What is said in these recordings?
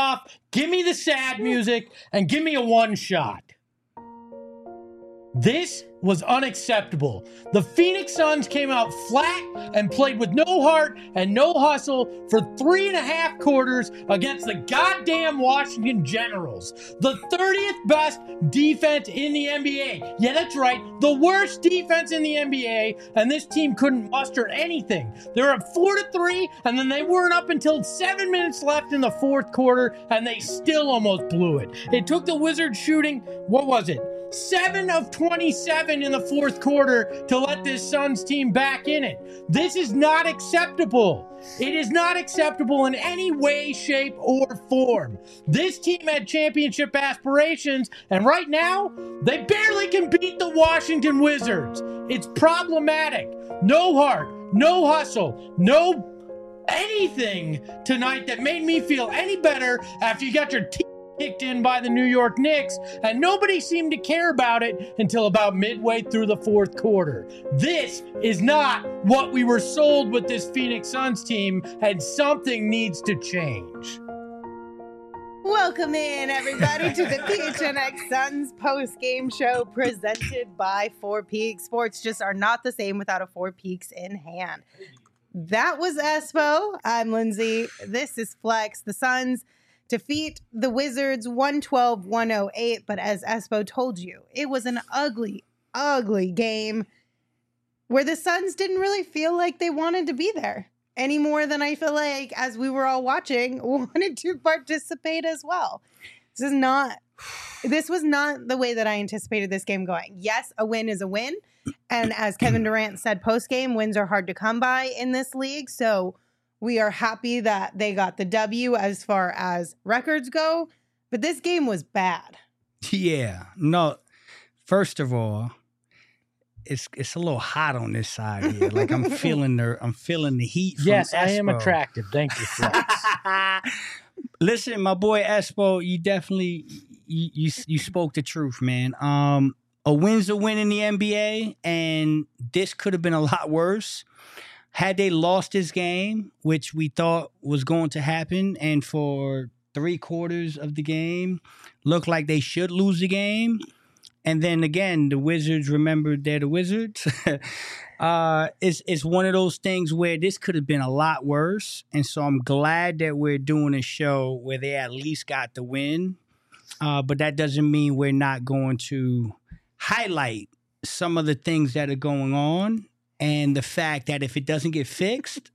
off, give me the sad music, and give me a one shot. This was unacceptable. The Phoenix Suns came out flat and played with no heart and no hustle for 3.5 quarters against the goddamn Washington Generals, the 30th best defense in the NBA. Yeah, that's right, the worst defense in the NBA, and this team couldn't muster anything. They were up 4-3, and then they weren't up until 7 minutes left in the fourth quarter, and they still almost blew it. It took the Wizards shooting, 7 of 27 in the fourth quarter to let this Suns team back in it. This is not acceptable. It is not acceptable in any way, shape, or form. This team had championship aspirations, and right now, they barely can beat the Washington Wizards. It's problematic. No heart, no hustle, no anything tonight that made me feel any better after you got your team kicked in by the New York Knicks, and nobody seemed to care about it until about midway through the fourth quarter. This is not what we were sold with this Phoenix Suns team, and something needs to change. Welcome in, everybody, to the PHNX Suns post-game show presented by Four Peaks. Sports just are not the same without a Four Peaks in hand. That was Espo. I'm Lindsay. This is Flex. The Suns defeat the Wizards 112-108, but as Espo told you, it was an ugly, ugly game where the Suns didn't really feel like they wanted to be there any more than I feel like, as we were all watching, wanted to participate as well. This was not the way that I anticipated this game going. Yes, a win is a win, and as Kevin Durant said post-game, wins are hard to come by in this league, so we are happy that they got the W as far as records go, but this game was bad. Yeah. No, first of all, it's a little hot on this side here. Like I'm feeling the heat from Yes, Espo. I am attractive. Thank you, Flex. Listen, my boy Espo, you definitely you spoke the truth, man. A win's a win in the NBA, and this could have been a lot worse. Had they lost this game, which we thought was going to happen, and for 3/4 of the game, looked like they should lose the game, and then again, the Wizards remembered they're the Wizards. It's one of those things where this could have been a lot worse, and so I'm glad that we're doing a show where they at least got the win, but that doesn't mean we're not going to highlight some of the things that are going on. And the fact that if it doesn't get fixed,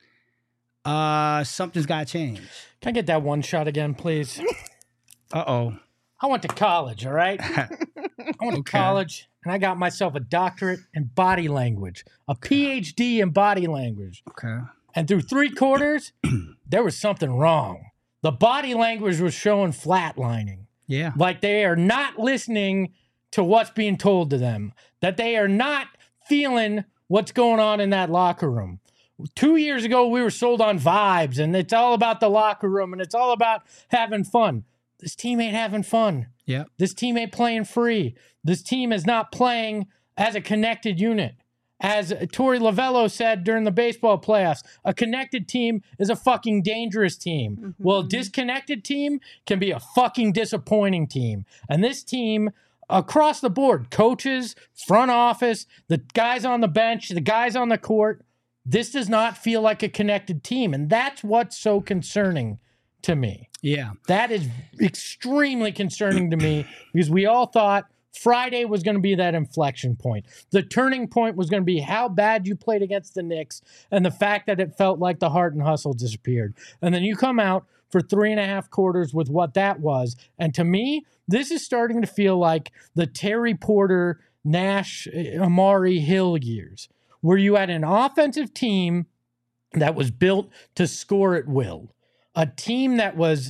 something's got to change. Can I get that one shot again, please? Uh-oh. I went to college, all right? I went to college, and I got myself a doctorate in body language, a PhD in body language. Okay. And through 3 quarters, there was something wrong. The body language was showing flatlining. Yeah. Like they are not listening to what's being told to them, that they are not feeling what's going on in that locker room. 2 years ago, we were sold on vibes, and it's all about the locker room, and it's all about having fun. This team ain't having fun. Yeah. This team ain't playing free. This team is not playing as a connected unit. As Torey Lovello said during the baseball playoffs, a connected team is a fucking dangerous team. Mm-hmm. Well, a disconnected team can be a fucking disappointing team. And this team, across the board, coaches, front office, the guys on the bench, the guys on the court, this does not feel like a connected team. And that's what's so concerning to me. Yeah. That is extremely concerning to me because we all thought Friday was going to be that inflection point. The turning point was going to be how bad you played against the Knicks and the fact that it felt like the heart and hustle disappeared. And then you come out for 3.5 quarters with what that was. And to me, this is starting to feel like the Terry Porter, Nash, Amari Hill years, where you had an offensive team that was built to score at will, a team that was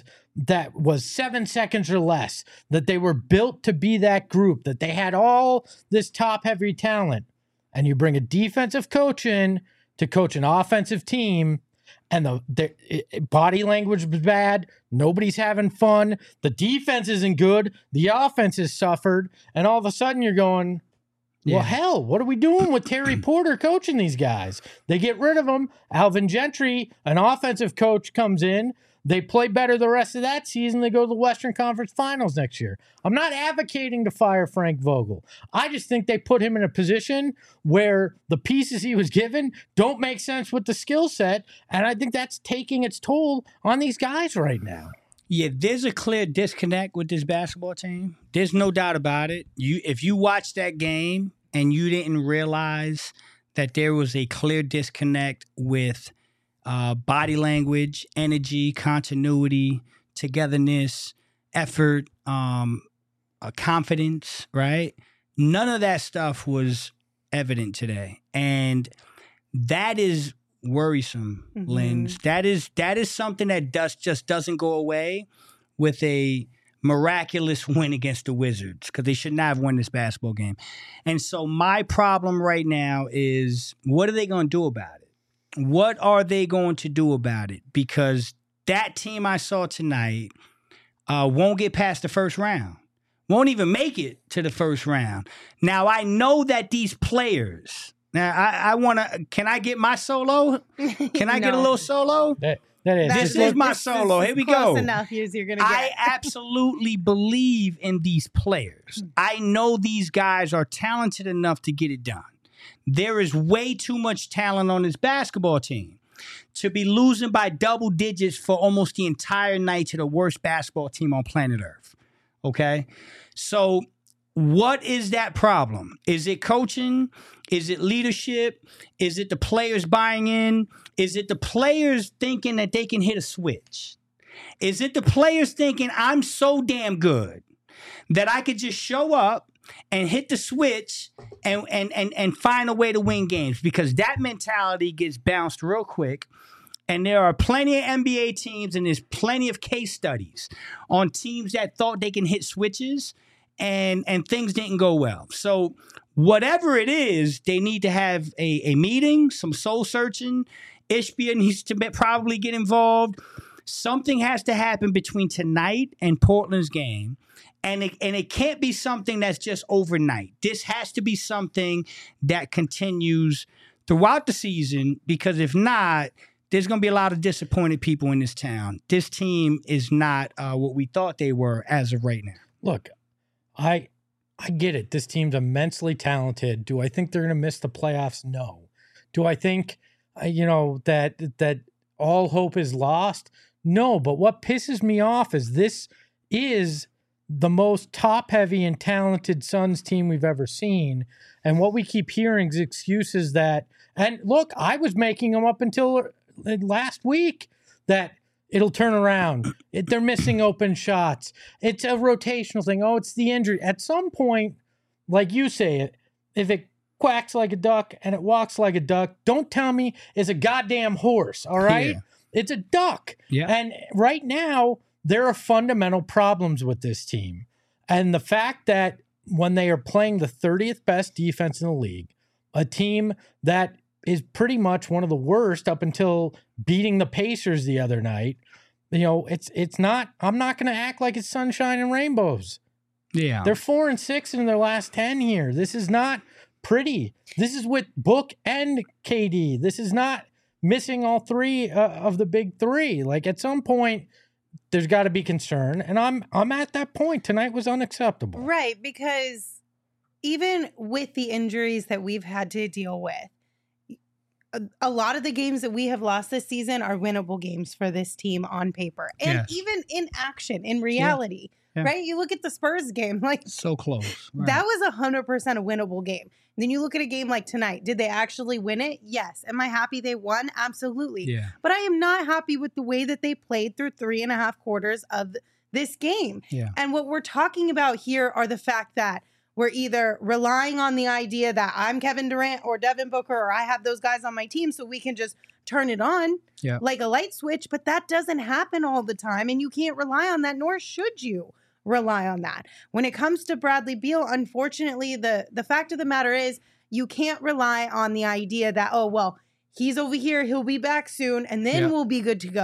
7 seconds or less, that they were built to be that group, that they had all this top-heavy talent, and you bring a defensive coach in to coach an offensive team, and the body language was bad. Nobody's having fun. The defense isn't good. The offense has suffered. And all of a sudden you're going, well, hell, what are we doing with Terry Porter coaching these guys? They get rid of him. Alvin Gentry, an offensive coach, comes in. they play better the rest of that season. They go to the Western Conference Finals next year. I'm not advocating to fire Frank Vogel. I just think they put him in a position where the pieces he was given don't make sense with the skill set, and I think that's taking its toll on these guys right now. Yeah, there's a clear disconnect with this basketball team. There's no doubt about it. If you watched that game and you didn't realize that there was a clear disconnect with body language, energy, continuity, togetherness, effort, confidence, right? None of that stuff was evident today. And that is worrisome, Lens. That is something that just doesn't go away with a miraculous win against the Wizards, because they should not have won this basketball game. And so my problem right now is, what are they going to do about it? What are they going to do about it? Because that team I saw tonight won't get past the first round. Won't even make it to the first round. Now, I know that these players... Now, I want to... Can I get my solo? Can I get a little solo? This is my solo. Here we go. Close enough as you're going to get. I absolutely believe in these players. I know these guys are talented enough to get it done. There is way too much talent on this basketball team to be losing by double digits for almost the entire night to the worst basketball team on planet Earth. Okay? So what is that problem? Is it coaching? Is it leadership? Is it the players buying in? Is it the players thinking that they can hit a switch? Is it the players thinking, I'm so damn good that I could just show up and hit the switch and find a way to win games? Because that mentality gets bounced real quick. And there are plenty of NBA teams, and there's plenty of case studies on teams that thought they can hit switches and things didn't go well. So whatever it is, they need to have a meeting, some soul searching. Ishbia needs to probably get involved. Something has to happen between tonight and Portland's game. And it can't be something that's just overnight. This has to be something that continues throughout the season, because if not, there's going to be a lot of disappointed people in this town. This team is not what we thought they were as of right now. Look, I get it. This team's immensely talented. Do I think they're going to miss the playoffs? No. Do I think, that all hope is lost? No. But what pisses me off is this is the most top-heavy and talented Suns team we've ever seen. And what we keep hearing is excuses that, and look, I was making them up until last week, that it'll turn around. They're missing open shots. It's a rotational thing. Oh, it's the injury. At some point, like you say it, if it quacks like a duck and it walks like a duck, don't tell me it's a goddamn horse, all right? Yeah. It's a duck. Yeah. And right now, there are fundamental problems with this team. And the fact that when they are playing the 30th best defense in the league, a team that is pretty much one of the worst up until beating the Pacers the other night, it's not, I'm not going to act like it's sunshine and rainbows. Yeah. They're 4-6 in their last 10 here. This is not pretty. This is with Book and KD. This is not missing all three of the big three. Like, at some point, there's got to be concern, and I'm at that point. Tonight was unacceptable. Right, because even with the injuries that we've had to deal with, a lot of the games that we have lost this season are winnable games for this team on paper, and even in action, in reality. Yeah. Right? You look at the Spurs game, like, so close. Right. That was 100% a winnable game. Then you look at a game like tonight. Did they actually win it? Yes. Am I happy they won? Absolutely. Yeah. But I am not happy with the way that they played through 3.5 quarters of this game. Yeah. And what we're talking about here are the fact that we're either relying on the idea that I'm Kevin Durant or Devin Booker, or I have those guys on my team so we can just turn it on like a light switch. But that doesn't happen all the time, and you can't rely on that, nor should you rely on that. When it comes to Bradley Beal, unfortunately, the fact of the matter is you can't rely on the idea that, oh, well, he's over here, he'll be back soon, and then we'll be good to go.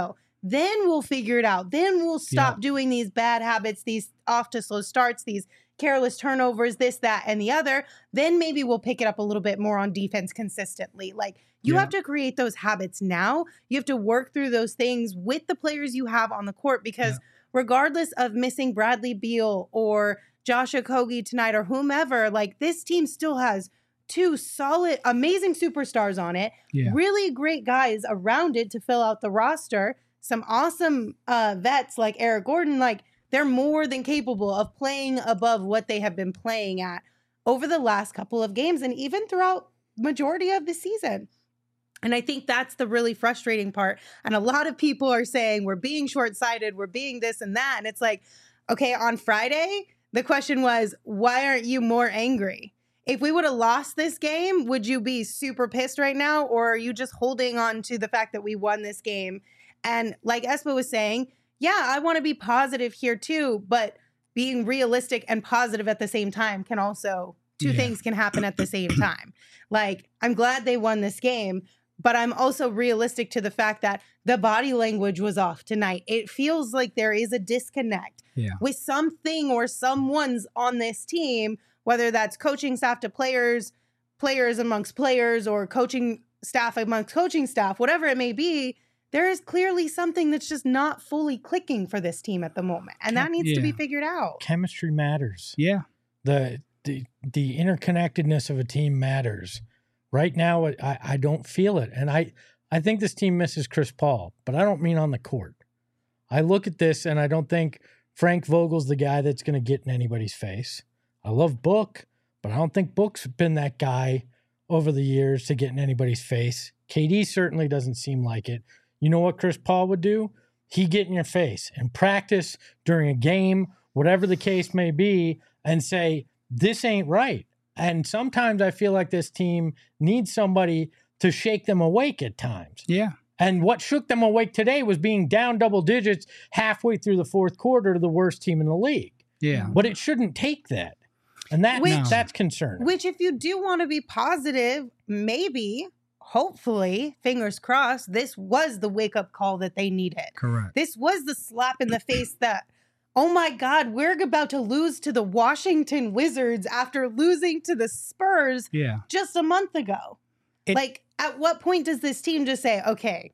then we'll figure it out. Then we'll stop doing these bad habits, these off to slow starts, these careless turnovers, this, that, and the other. Then maybe we'll pick it up a little bit more on defense consistently. Like, you have to create those habits now. You have to work through those things with the players you have on the court, because regardless of missing Bradley Beal or Josh Okogie tonight or whomever, like, this team still has two solid, amazing superstars on it, really great guys around it to fill out the roster, some awesome vets like Eric Gordon. Like, they're more than capable of playing above what they have been playing at over the last couple of games and even throughout majority of the season. And I think that's the really frustrating part. And a lot of people are saying we're being short-sighted, we're being this and that. And it's like, okay, on Friday, the question was, why aren't you more angry? If we would have lost this game, would you be super pissed right now? Or are you just holding on to the fact that we won this game? And like Espo was saying, yeah, I want to be positive here too, but being realistic and positive at the same time can also, two things can happen at the same time. Like, I'm glad they won this game, but I'm also realistic to the fact that the body language was off tonight. It feels like there is a disconnect with something or someone's on this team, whether that's coaching staff to players, players amongst players, or coaching staff amongst coaching staff, whatever it may be. There is clearly something that's just not fully clicking for this team at the moment. And that needs to be figured out. Chemistry matters. Yeah. The interconnectedness of a team matters. Right now, I don't feel it. And I think this team misses Chris Paul, but I don't mean on the court. I look at this and I don't think Frank Vogel's the guy that's going to get in anybody's face. I love Book, but I don't think Book's been that guy over the years to get in anybody's face. KD certainly doesn't seem like it. You know what Chris Paul would do? He'd get in your face in practice, during a game, whatever the case may be, and say, this ain't right. And sometimes I feel like this team needs somebody to shake them awake at times. Yeah. And what shook them awake today was being down double digits halfway through the fourth quarter to the worst team in the league. Yeah. But it shouldn't take that. And that's concerning. Which, if you do want to be positive, maybe, hopefully, fingers crossed, this was the wake-up call that they needed. Correct. This was the slap in the face that, oh my God, we're about to lose to the Washington Wizards after losing to the Spurs just a month ago. Like, at what point does this team just say, okay,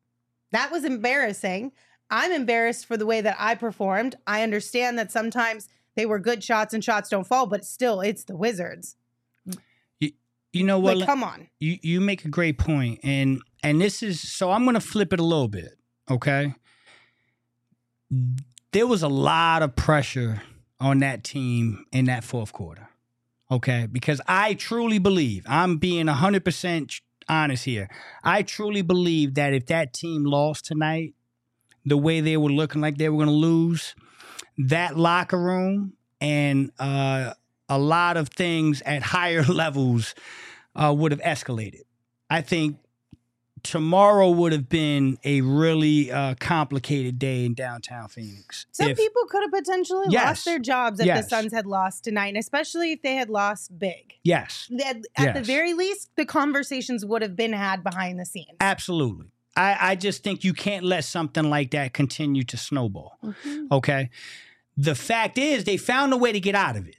that was embarrassing. I'm embarrassed for the way that I performed. I understand that sometimes they were good shots and shots don't fall, but still, it's the Wizards. You know what? Like, come on. You make a great point. And this is, so I'm going to flip it a little bit, okay? There was a lot of pressure on that team in that fourth quarter, okay? Because I truly believe, I'm being 100% honest here, I truly believe that if that team lost tonight, the way they were looking like they were going to lose, that locker room and a lot of things at higher levels would have escalated. I think tomorrow would have been a really complicated day in downtown Phoenix. Some people could have potentially lost their jobs if the Suns had lost tonight, and especially if they had lost big. Yes. At the very least, the conversations would have been had behind the scenes. Absolutely. I just think you can't let something like that continue to snowball. Mm-hmm. Okay? The fact is, they found a way to get out of it.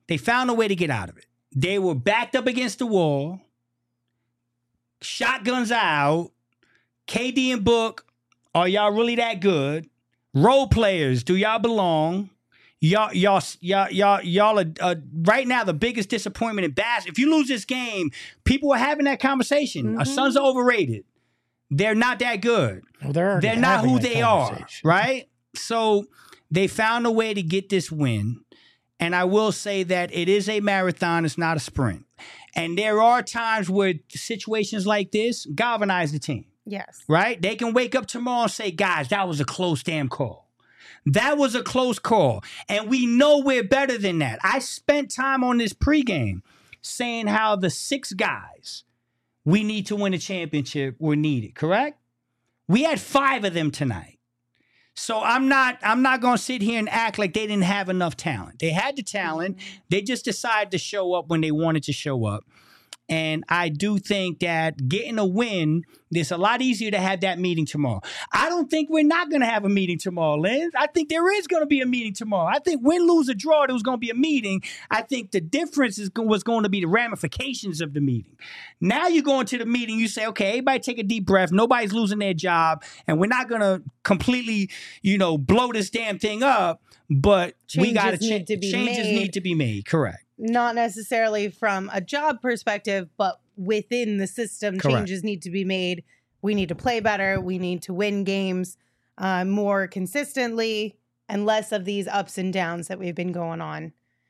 They were backed up against the wall, shotguns out. KD and Book, are y'all really that good? Role players, do y'all belong? Y'all are right now the biggest disappointment in basketball. If you lose this game, people are having that conversation. Mm-hmm. Our Suns are overrated. They're not that good. Well, they're not who they are, right? So they found a way to get this win. And I will say that it is a marathon. It's not a sprint. And there are times where situations like this galvanize the team. Yes. Right? They can wake up tomorrow and say, guys, that was a close damn call. That was a close call. And we know we're better than that. I spent time on this pregame saying how the 6 guys we need to win a championship were needed, correct? We had 5 of them tonight. So I'm not going to sit here and act like they didn't have enough talent. They had the talent. They just decided to show up when they wanted to show up. And I do think that getting a win, it's a lot easier to have that meeting tomorrow. I don't think we're not going to have a meeting tomorrow, Lynn. I think there is going to be a meeting tomorrow. I think win, lose, or draw, there was going to be a meeting. I think the difference was going to be the ramifications of the meeting. Now you go into the meeting, you say, okay, everybody take a deep breath. Nobody's losing their job. And we're not going to completely, blow this damn thing up. But we got to change. Changes need to be made. Correct. Not necessarily from a job perspective, but within the system, Correct. Changes need to be made. We need to play better. We need to win games more consistently and less of these ups and downs that we've been going on.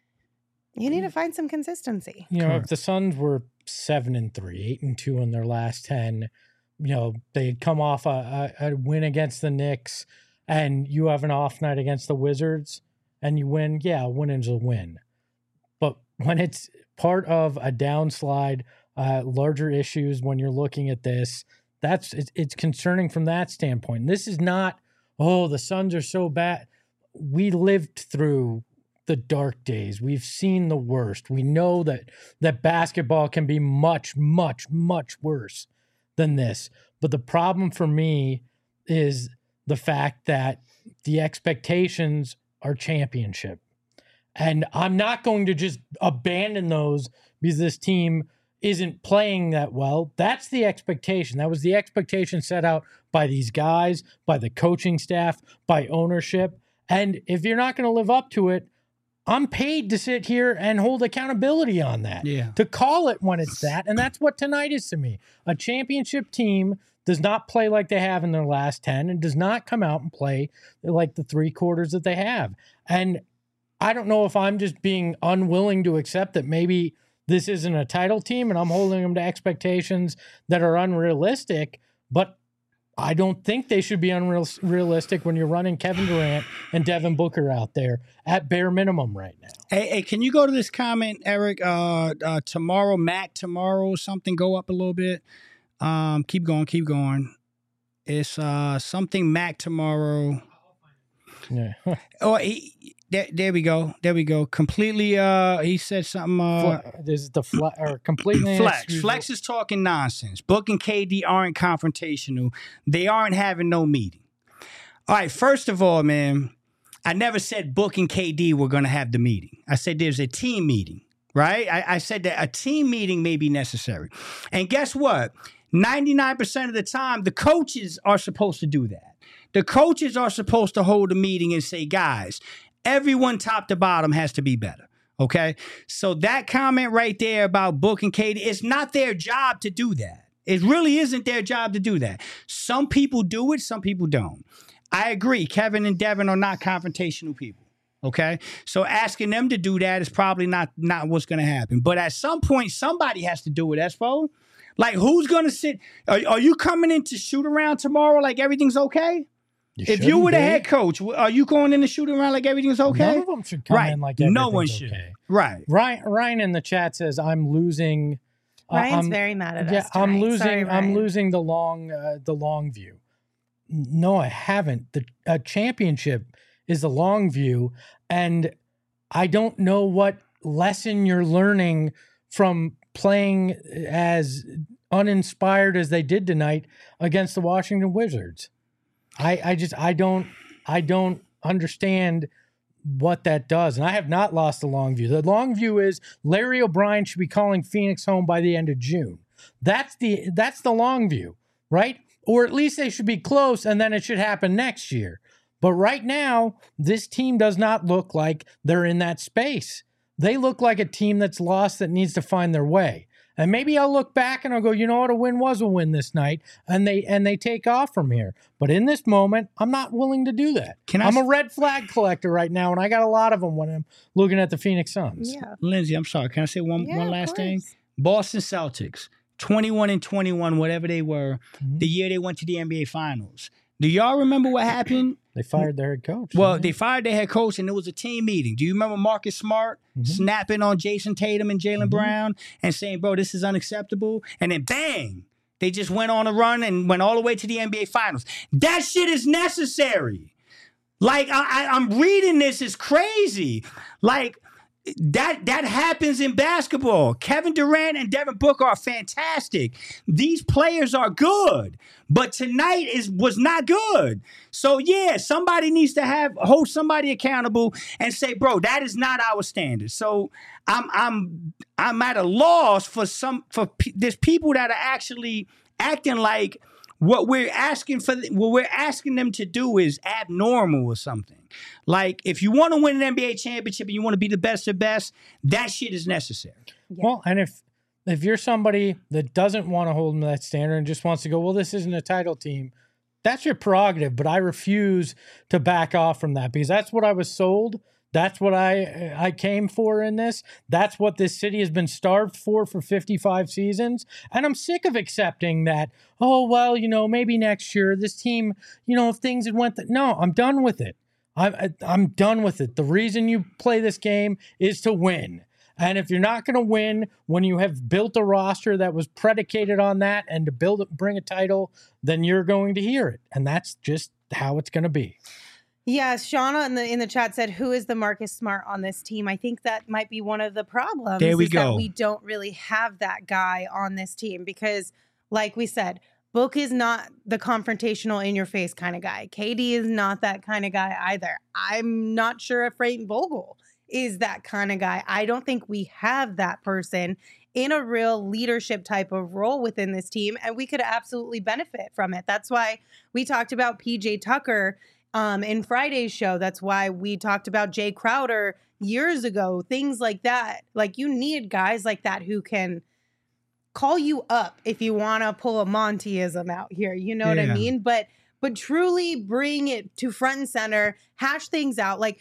You need to find some consistency. If the Suns were 7-3, 8-2 in their last 10, they had come off a win against the Knicks, and you have an off night against the Wizards, and you win. Yeah, a win is a win. But when it's part of a downslide, larger issues, when you're looking at this, it's concerning from that standpoint. And this is not, the Suns are so bad. We lived through the dark days. We've seen the worst. We know that basketball can be much, much, much worse than this. But the problem for me is the fact that the expectations are championship. And I'm not going to just abandon those because this team isn't playing that well. That's the expectation. That was the expectation set out by these guys, by the coaching staff, by ownership. And if you're not going to live up to it, I'm paid to sit here and hold accountability on that, to call it when it's that. And that's what tonight is to me. A championship team does not play like they have in their last 10 and does not come out and play like the 3 quarters that they have. And I don't know if I'm just being unwilling to accept that maybe this isn't a title team and I'm holding them to expectations that are unrealistic, but I don't think they should be unrealistic when you're running Kevin Durant and Devin Booker out there at bare minimum right now. Hey, can you go to this comment, Eric? Tomorrow, Mac, something go up a little bit. Keep going. It's something Mac tomorrow. Yeah. There we go. Completely. He said something. This is the completely Flex is talking nonsense. Book and KD aren't confrontational. They aren't having no meeting. All right. First of all, man, I never said Book and KD were going to have the meeting. I said there's a team meeting, right? I said that a team meeting may be necessary. And guess what? 99% of the time, the coaches are supposed to do that. The coaches are supposed to hold a meeting and say, guys, everyone top to bottom has to be better. Okay. So that comment right there about Book and KD, it's not their job to do that. It really isn't their job to do that. Some people do it. Some people don't. I agree. Kevin and Devin are not confrontational people. Okay. So asking them to do that is probably not what's going to happen. But at some point, somebody has to do it, Espo. Like, who's going to sit? Are you coming in to shoot around tomorrow like everything's okay? If you were the head coach, are you going in to shoot around like everything's okay? None of them should come in like everything's no one should. Okay. Right. Ryan in the chat says, I'm losing. Ryan's very mad at us. I'm losing. Sorry, I'm losing the long view. No, I haven't. A championship is the long view. And I don't know what lesson you're learning from playing as uninspired as they did tonight against the Washington Wizards. I don't understand what that does. And I have not lost the long view. The long view is Larry O'Brien should be calling Phoenix home by the end of June. That's the long view, right? Or at least they should be close and then it should happen next year. But right now, this team does not look like they're in that space. They look like a team that's lost that needs to find their way. And maybe I'll look back and I'll go, you know what, a win was a win this night, and they take off from here. But in this moment, I'm not willing to do that. I'm a red flag collector right now, and I got a lot of them when I'm looking at the Phoenix Suns. Yeah. Lindsay, I'm sorry. Can I say one last thing? Boston Celtics, 21-21, whatever they were, the year they went to the NBA Finals. Do y'all remember what happened? They fired their head coach. Well, they fired their head coach, and it was a team meeting. Do you remember Marcus Smart snapping on Jason Tatum and Jaylen Brown and saying, bro, this is unacceptable? And then bang, they just went on a run and went all the way to the NBA Finals. That shit is necessary. Like, I'm reading this, it's crazy. Like, that happens in basketball. Kevin Durant and Devin Booker are fantastic. These players are good, but tonight was not good. So yeah, somebody needs to hold somebody accountable and say, bro, that is not our standard. So I'm at a loss for there's people that are actually acting like what we're asking them to do is abnormal or something. Like, if you want to win an NBA championship and you want to be the best of best, that shit is necessary. Yeah. Well, and if you're somebody that doesn't want to hold them to that standard and just wants to go, well, this isn't a title team, that's your prerogative. But I refuse to back off from that because that's what I was sold. That's what I came for in this. That's what this city has been starved for 55 seasons. And I'm sick of accepting that, oh, well, maybe next year this team, if things had went... No, I'm done with it. I'm done with it. The reason you play this game is to win. And if you're not going to win when you have built a roster that was predicated on that and to bring a title, then you're going to hear it. And that's just how it's going to be. Yes, Shauna in the chat said, who is the Marcus Smart on this team? I think that might be one of the problems. There we go. That we don't really have that guy on this team because, like we said, Book is not the confrontational in-your-face kind of guy. KD is not that kind of guy either. I'm not sure if Frank Vogel is that kind of guy. I don't think we have that person in a real leadership type of role within this team, and we could absolutely benefit from it. That's why we talked about PJ Tucker in Friday's show. That's why we talked about Jay Crowder years ago, things like that. Like, you need guys like that who can call you up if you want to pull a Montyism out here. You know what I mean? But truly bring it to front and center, hash things out. Like,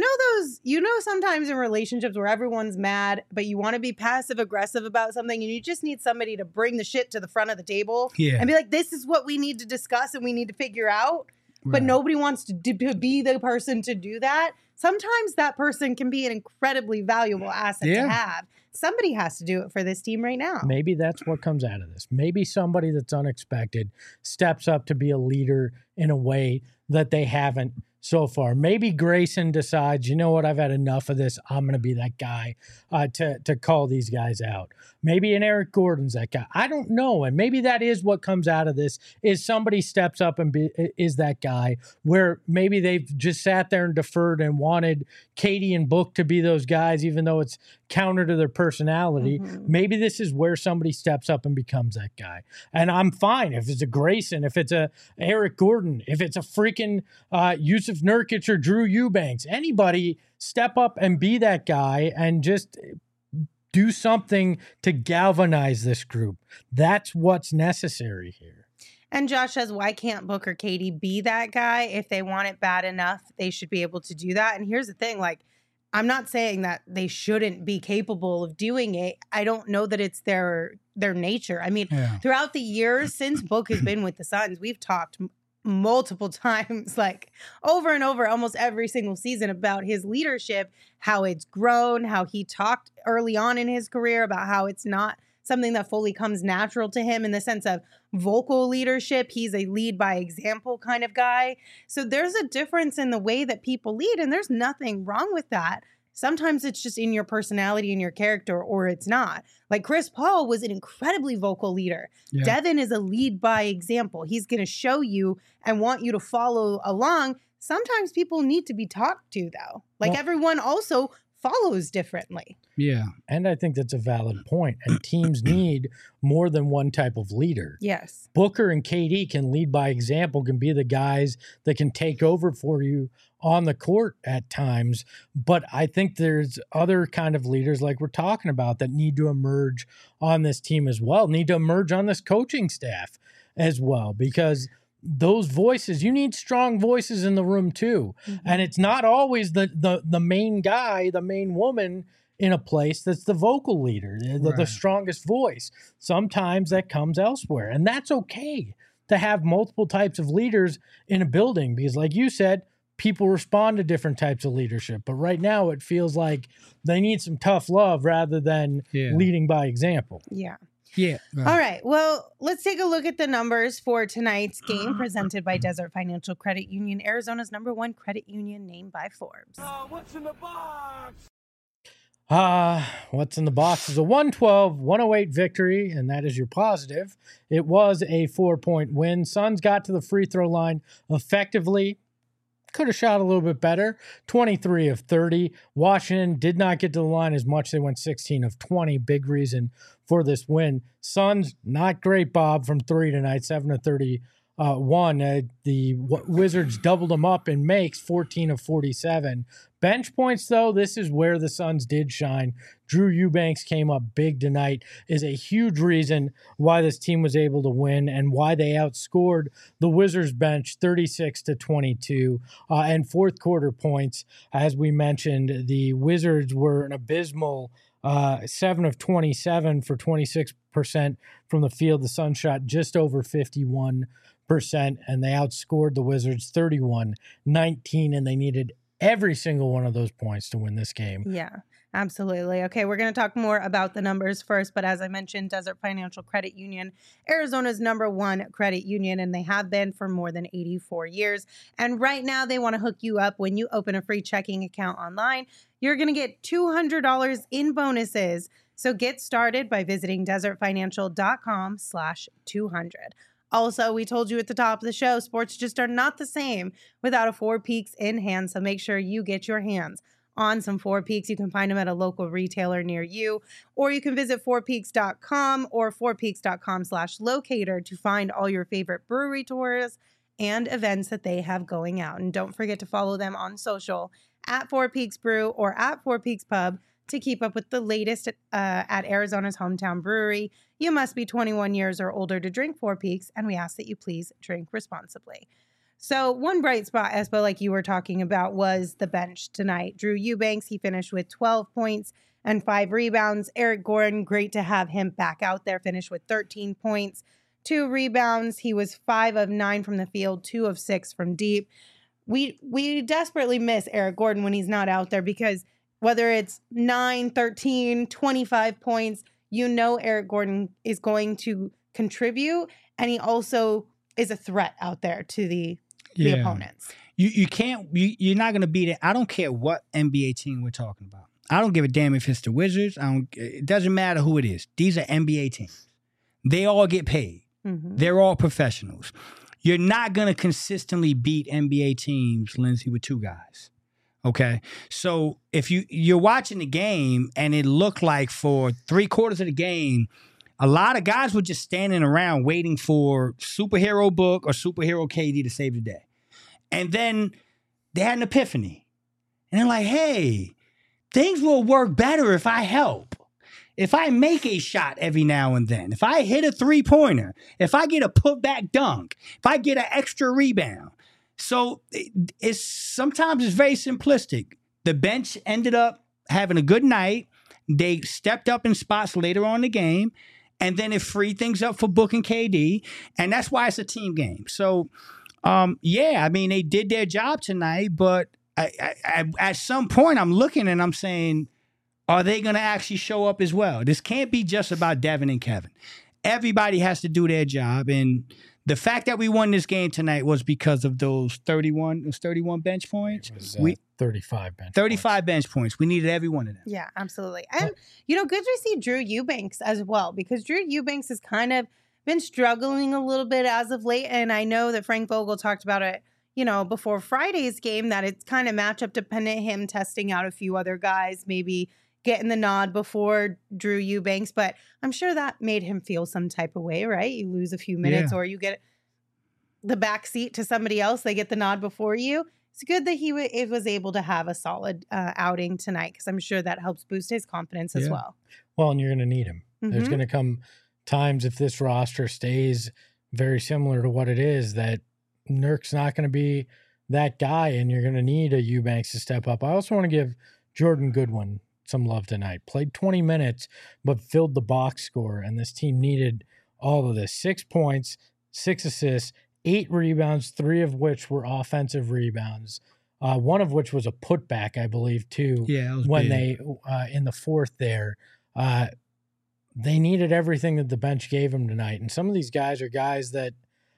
sometimes in relationships where everyone's mad, but you want to be passive aggressive about something and you just need somebody to bring the shit to the front of the table and be like, this is what we need to discuss and we need to figure out. But nobody wants to be the person to do that. Sometimes that person can be an incredibly valuable asset to have. Somebody has to do it for this team right now. Maybe that's what comes out of this. Maybe somebody that's unexpected steps up to be a leader in a way that they haven't so far. Maybe Grayson decides, you know what, I've had enough of this. I'm going to be that guy to call these guys out. Maybe an Eric Gordon's that guy. I don't know. And maybe that is what comes out of this, is somebody steps up and is that guy, where maybe they've just sat there and deferred and wanted Katie and Book to be those guys, even though it's counter to their personality. Maybe this is where somebody steps up and becomes that guy. And I'm fine if it's a Grayson, if it's a Eric Gordon, if it's a freaking Yusuf Nurkic or Drew Eubanks. Anybody step up and be that guy and just do something to galvanize this group. That's what's necessary here. And Josh says, why can't Book or Katie be that guy? If they want it bad enough, they should be able to do that. And here's the thing, like, I'm not saying that they shouldn't be capable of doing it. I don't know that it's their nature. I mean, throughout the years since Book has been with the Suns, we've talked multiple times, like over and over, almost every single season, about his leadership, how it's grown, how he talked early on in his career about how it's not something that fully comes natural to him in the sense of vocal leadership. He's a lead by example kind of guy. So there's a difference in the way that people lead, and there's nothing wrong with that. Sometimes it's just in your personality and your character, or it's not. Like, Chris Paul was an incredibly vocal leader. Devin is a lead by example. He's going to show you and want you to follow along. Sometimes people need to be talked to, though. Like, everyone also follows differently. Yeah. And I think that's a valid point. And teams need more than one type of leader. Yes. Booker and KD can lead by example, can be the guys that can take over for you on the court at times. But I think there's other kind of leaders like we're talking about that need to emerge on this team as well, need to emerge on this coaching staff as well, because those voices, you need strong voices in the room too. And it's not always the main guy, the main woman in a place that's the vocal leader, the strongest voice. Sometimes that comes elsewhere. And that's okay to have multiple types of leaders in a building, because like you said, people respond to different types of leadership. But right now it feels like they need some tough love rather than leading by example. Yeah. Yeah. All right. Well, let's take a look at the numbers for tonight's game presented by Desert Financial Credit Union, Arizona's #1 credit union named by Forbes. What's in the box? What's in the box is a 112-108 victory, and that is your positive. It was a 4-point win. Suns got to the free throw line effectively. Could have shot a little bit better. 23 of 30. Washington did not get to the line as much. They went 16 of 20. Big reason for this win. Suns, not great, Bob, from 3 tonight. 7 of 31. The Wizards doubled them up in makes, 14 of 47. Bench points, though, this is where the Suns did shine. Drew Eubanks came up big tonight, is a huge reason why this team was able to win and why they outscored the Wizards bench 36-22. And fourth quarter points, as we mentioned, the Wizards were an abysmal 7 of 27 for 26% from the field. The Suns shot just over 51%, and they outscored the Wizards 31-19, and they needed every single one of those points to win this game. Yeah, absolutely. Okay, we're going to talk more about the numbers first, but as I mentioned, Desert Financial Credit Union, Arizona's #1 credit union, and they have been for more than 84 years. And right now, they want to hook you up when you open a free checking account online. You're going to get $200 in bonuses. So get started by visiting desertfinancial.com/200. Also, we told you at the top of the show, sports just are not the same without a Four Peaks in hand. So make sure you get your hands on some Four Peaks. You can find them at a local retailer near you, or you can visit fourpeaks.com or fourpeaks.com/locator to find all your favorite brewery tours and events that they have going out. And don't forget to follow them on social at Four Peaks Brew or at Four Peaks Pub to keep up with the latest at Arizona's hometown brewery. You must be 21 years or older to drink Four Peaks, and we ask that you please drink responsibly. So one bright spot, Espo, like you were talking about, was the bench tonight. Drew Eubanks, he finished with 12 points and 5 rebounds. Eric Gordon, great to have him back out there, finished with 13 points, 2 rebounds. He was 5 of 9 from the field, 2 of 6 from deep. We desperately miss Eric Gordon when he's not out there, because whether it's 9, 13, 25 points, you know Eric Gordon is going to contribute, and he also is a threat out there to the opponents. You're not going to beat it. I don't care what NBA team we're talking about. I don't give a damn if it's the Wizards. It doesn't matter who it is. These are NBA teams. They all get paid. Mm-hmm. They're all professionals. You're not going to consistently beat NBA teams, Lindsay, with 2 guys. Okay, so if you're watching the game and it looked like for 3/4 of the game, a lot of guys were just standing around waiting for superhero Book or superhero KD to save the day. And then they had an epiphany. And they're like, hey, things will work better if I help. If I make a shot every now and then, if I hit a 3-pointer, if I get a putback dunk, if I get an extra rebound. So sometimes it's very simplistic. The bench ended up having a good night. They stepped up in spots later on in the game, and then it freed things up for Book and KD, and that's why it's a team game. So, they did their job tonight, but at some point I'm looking and I'm saying, are they going to actually show up as well? This can't be just about Devin and Kevin. Everybody has to do their job, and the fact that we won this game tonight was because of those 31 bench points. It was 35 bench points. We needed every one of them. Yeah, absolutely. And, good to see Drew Eubanks as well, because Drew Eubanks has kind of been struggling a little bit as of late. And I know that Frank Vogel talked about it, before Friday's game, that it's kind of matchup dependent, him testing out a few other guys, maybe getting the nod before Drew Eubanks, but I'm sure that made him feel some type of way, right? You lose a few minutes or you get the back seat to somebody else, they get the nod before you. It's good that he was able to have a solid outing tonight, because I'm sure that helps boost his confidence as well. Well, and you're going to need him. Mm-hmm. There's going to come times, if this roster stays very similar to what it is, that Nurk's not going to be that guy, and you're going to need a Eubanks to step up. I also want to give Jordan Goodwin some love tonight. Played 20 minutes, but filled the box score, and this team needed all of this. 6 points, 6 assists, 8 rebounds, 3 of which were offensive rebounds. One of which was a putback, I believe, too. Yeah, it was when big. They in the fourth there. They needed everything that the bench gave them tonight, and some of these guys are guys that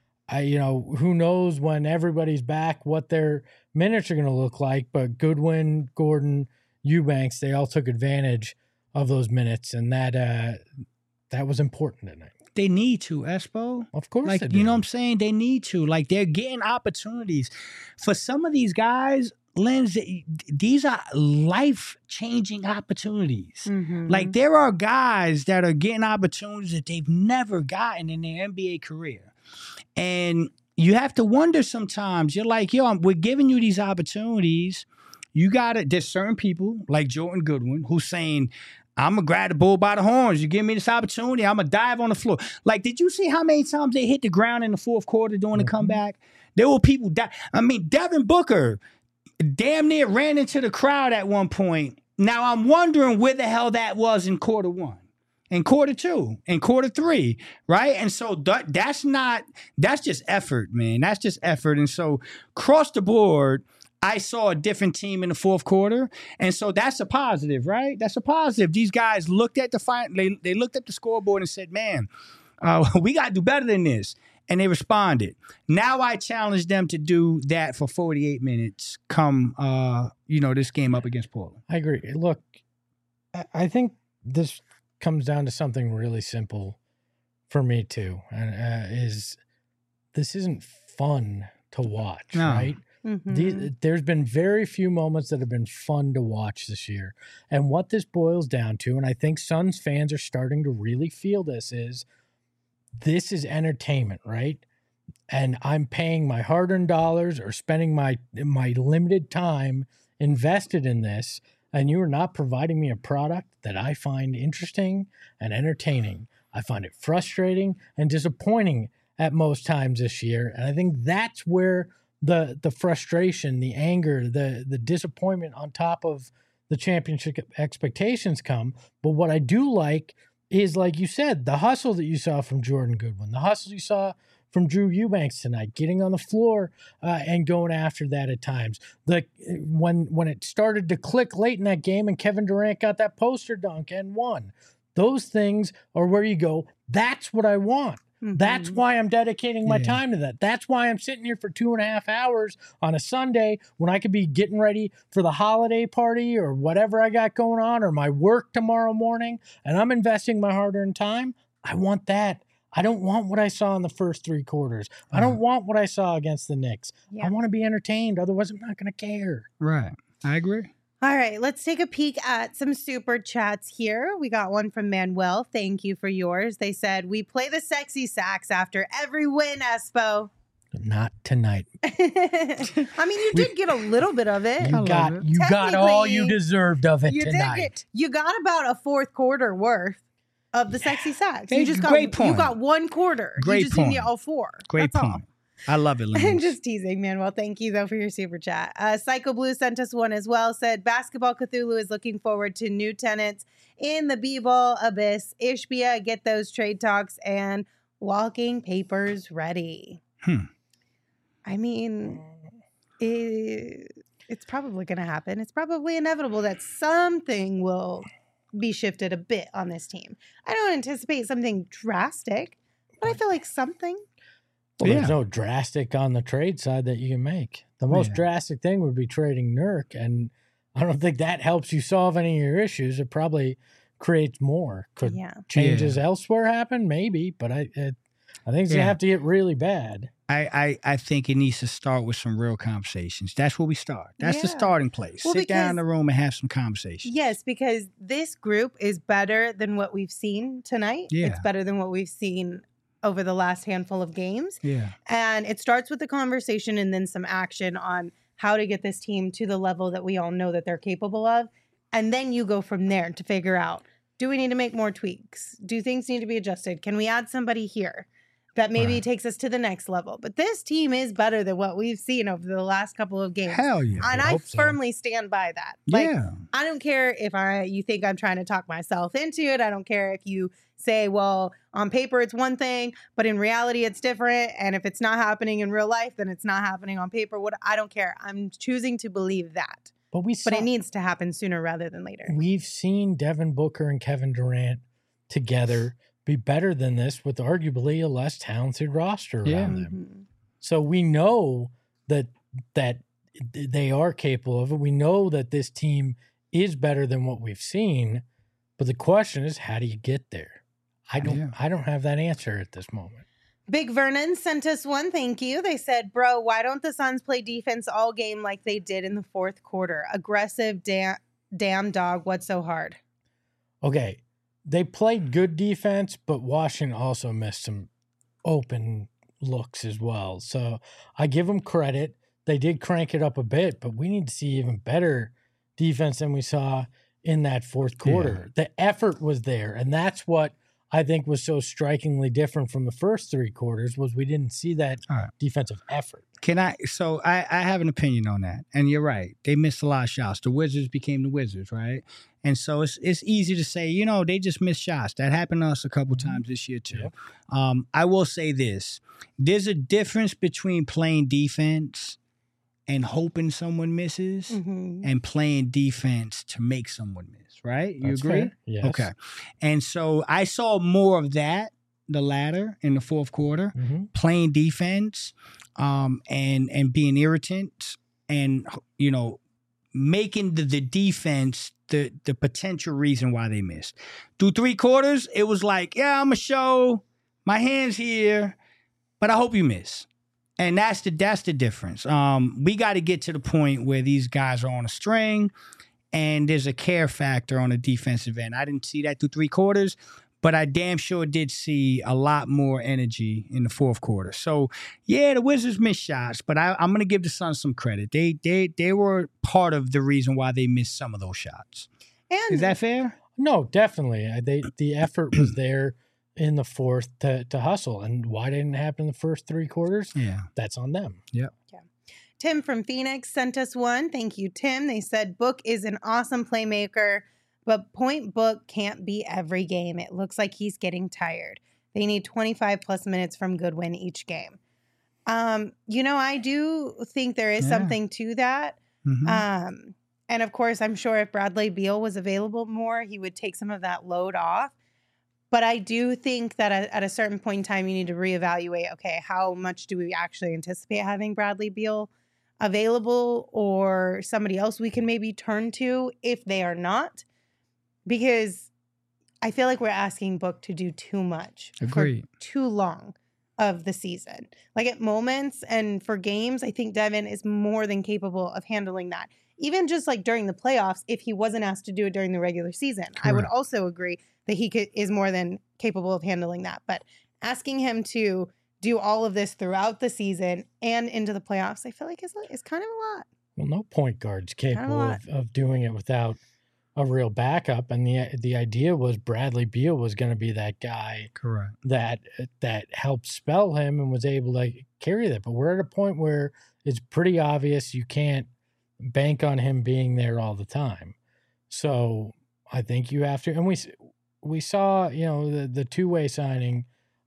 who knows when everybody's back what their minutes are going to look like. But Goodwin, Gordon, Eubanks, they all took advantage of those minutes, and that was important tonight. They need to, Espo. Of course, Like, they you know do. what I'm saying? They need to. Like, they're getting opportunities. For some of these guys, Lens, these are life-changing opportunities. Mhm. Like, there are guys that are getting opportunities that they've never gotten in their NBA career. And you have to wonder sometimes, you're like, yo, we're giving you these opportunities. You got to, there's certain people like Jordan Goodwin who's saying, I'm going to grab the bull by the horns. You give me this opportunity, I'm going to dive on the floor. Like, did you see how many times they hit the ground in the fourth quarter during the comeback? There were people I mean, Devin Booker damn near ran into the crowd at one point. Now, I'm wondering where the hell that was in quarter one, in quarter two, in quarter three, right? And so that's just effort, man. That's just effort. And so across the board, I saw a different team in the fourth quarter. And so that's a positive, right? That's a positive. These guys looked at they looked at the scoreboard and said, man, we got to do better than this. And they responded. Now I challenge them to do that for 48 minutes come, this game up against Portland. I agree. Look, I think this comes down to something really simple for me too, and this isn't fun to watch, No. right? There's been very few moments that have been fun to watch this year. And what this boils down to, and I think Suns fans are starting to really feel this is entertainment, right? And I'm paying my hard-earned dollars or spending my limited time invested in this, and you are not providing me a product that I find interesting and entertaining. I find it frustrating and disappointing at most times this year. And I think that's where the frustration, the anger, the disappointment on top of the championship expectations come. But what I do like is, like you said, the hustle that you saw from Jordan Goodwin, the hustle you saw from Drew Eubanks tonight, getting on the floor and going after that at times. When it started to click late in that game and Kevin Durant got that poster dunk and won, those things are where you go, that's what I want. That's why I'm dedicating my time to that. That's why I'm sitting here for 2.5 hours on a Sunday when I could be getting ready for the holiday party or whatever I got going on or my work tomorrow morning, and I'm investing my hard-earned time. I want that. I don't want what I saw in the first 3 quarters. I don't want what I saw against the Knicks. Yeah. I want to be entertained. Otherwise, I'm not going to care. Right. I agree. All right, let's take a peek at some super chats here. We got one from Manuel. Thank you for yours. They said, we play the sexy sax after every win, Espo. Not tonight. I mean, you did get a little bit of it. You got all you deserved of it You tonight. you got about a fourth quarter worth of the sexy sax. Hey, You just great point. You got 1 quarter. Great You just didn't point. get all 4. Great That's point. all. I love it, I'm Lynn. just teasing, Manuel. Thank you, though, for your super chat. Psycho Blue sent us one as well. Said, Basketball Cthulhu is looking forward to new tenants in the B-Ball Abyss. Ishbia, get those trade talks and walking papers ready. I mean, it's probably going to happen. It's probably inevitable that something will be shifted a bit on this team. I don't anticipate something drastic, but I feel like something. Well, there's no drastic on the trade side that you can make. The most drastic thing would be trading Nurk, and I don't think that helps you solve any of your issues. It probably creates more. Could changes elsewhere happen? Maybe, but I think it's gonna have to get really bad. I think it needs to start with some real conversations. That's where we start. That's the starting place. Well, Sit down in the room and have some conversations. Yes, because this group is better than what we've seen tonight. Yeah. It's better than what we've seen over the last handful of games. Yeah. And it starts with the conversation and then some action on how to get this team to the level that we all know that they're capable of. And then you go from there to figure out, do we need to make more tweaks? Do things need to be adjusted? Can we add somebody here that maybe takes us to the next level? But this team is better than what we've seen over the last couple of games. Hell yeah. And I firmly stand by that. Like, Yeah. I don't care if you think I'm trying to talk myself into it. I don't care if you say, well, on paper it's one thing, but in reality it's different. And if it's not happening in real life, then it's not happening on paper. I don't care. I'm choosing to believe that. But it needs to happen sooner rather than later. We've seen Devin Booker and Kevin Durant together be better than this with arguably a less talented roster around them. So we know that they are capable of it. We know that this team is better than what we've seen. But the question is, how do you get there? I don't have that answer at this moment. Big Vernon sent us one thank you. They said, bro, why don't the Suns play defense all game like they did in the fourth quarter? Aggressive, damn dog, what's so hard? Okay, they played good defense, but Washington also missed some open looks as well. So I give them credit. They did crank it up a bit, but we need to see even better defense than we saw in that fourth quarter. Yeah. The effort was there, and that's what I think was so strikingly different from the first three quarters was we didn't see that defensive effort. So I have an opinion on that. And you're right. They missed a lot of shots. The Wizards became the Wizards, right? And so it's easy to say, they just missed shots. That happened to us a couple times this year too. Yep. I will say this. There's a difference between playing defense and hoping someone misses and playing defense to make someone miss, right? You That's agree? Fair. Yes. Okay. And so I saw more of that, the latter, in the fourth quarter, playing defense and being irritant and, making the defense the potential reason why they missed. Through three quarters, it was like, yeah, I'm going to show my hands here, but I hope you miss. And that's the difference. We got to get to the point where these guys are on a string and there's a care factor on the defensive end. I didn't see that through three quarters, but I damn sure did see a lot more energy in the fourth quarter. So, yeah, the Wizards missed shots, but I'm going to give the Suns some credit. They were part of the reason why they missed some of those shots. And is that fair? No, definitely. The effort was there in the fourth to hustle. And why didn't it happen in the first three quarters? Yeah. That's on them. Yep. Yeah. Tim from Phoenix sent us one. Thank you, Tim. They said, Book is an awesome playmaker, but Point Book can't be every game. It looks like he's getting tired. They need 25 plus minutes from Goodwin each game. I do think there is something to that. And of course, I'm sure if Bradley Beal was available more, he would take some of that load off. But I do think that at a certain point in time, you need to reevaluate, okay, how much do we actually anticipate having Bradley Beal available or somebody else we can maybe turn to if they are not? Because I feel like we're asking Book to do too much for too long of the season. Like at moments and for games, I think Devin is more than capable of handling that. Even just like during the playoffs, if he wasn't asked to do it during the regular season, I would also agree that he is more than capable of handling that. But asking him to do all of this throughout the season and into the playoffs, I feel like is kind of a lot. Well, no point guard's capable of doing it without a real backup. And the idea was Bradley Beal was going to be that guy that helped spell him and was able to carry that. But we're at a point where it's pretty obvious you can't bank on him being there all the time. So I think you have to, and we saw, the two-way signing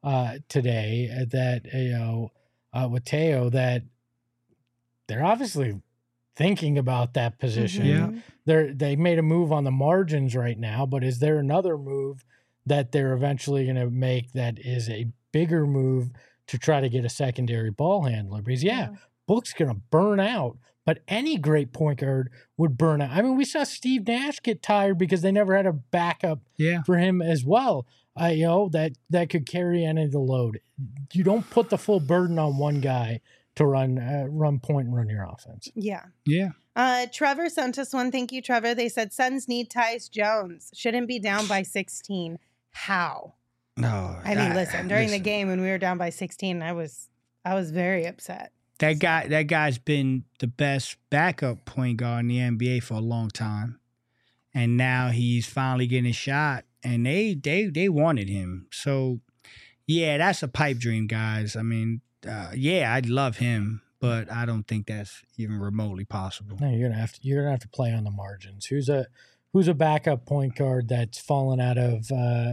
today that, with Teo, that they're obviously thinking about that position. They made a move on the margins right now, but is there another move that they're eventually going to make that is a bigger move to try to get a secondary ball handler? Because Book's going to burn out, but any great point guard would burn out. I mean, we saw Steve Nash get tired because they never had a backup for him as well. That could carry any of the load. You don't put the full burden on one guy to run point and run your offense. Yeah. Trevor sent us one. Thank you, Trevor. They said Suns need Tyus Jones. Shouldn't be down by 16. How? No. I mean, listen. During the game when we were down by 16, I was very upset. That guy's been the best backup point guard in the NBA for a long time, and now he's finally getting a shot. And they wanted him. So, yeah, that's a pipe dream, guys. I mean, I'd love him, but I don't think that's even remotely possible. No, you're gonna have to play on the margins. Who's a backup point guard that's fallen out of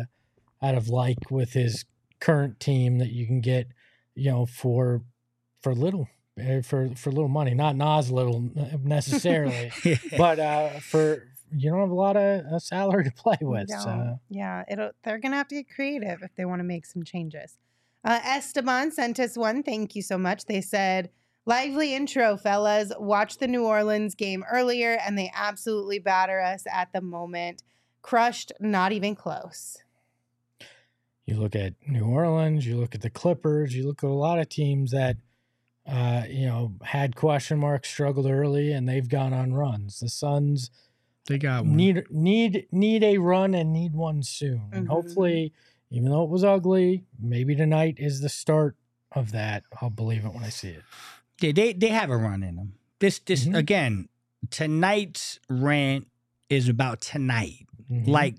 with his current team that you can get, for little money, not Nas little necessarily, but for. You don't have a lot of salary to play with. So. Yeah, they're going to have to get creative if they want to make some changes. Esteban sent us one. Thank you so much. They said, Lively intro, fellas. Watched the New Orleans game earlier, and they absolutely batter us at the moment. Crushed, not even close. You look at New Orleans, you look at the Clippers, you look at a lot of teams that, had question marks, struggled early, and they've gone on runs. The Suns They got one. need a run and need one soon. And hopefully, even though it was ugly, maybe tonight is the start of that. I'll believe it when I see it. Yeah, they have a run in them. This again, tonight's rant is about tonight. Mhm. Like,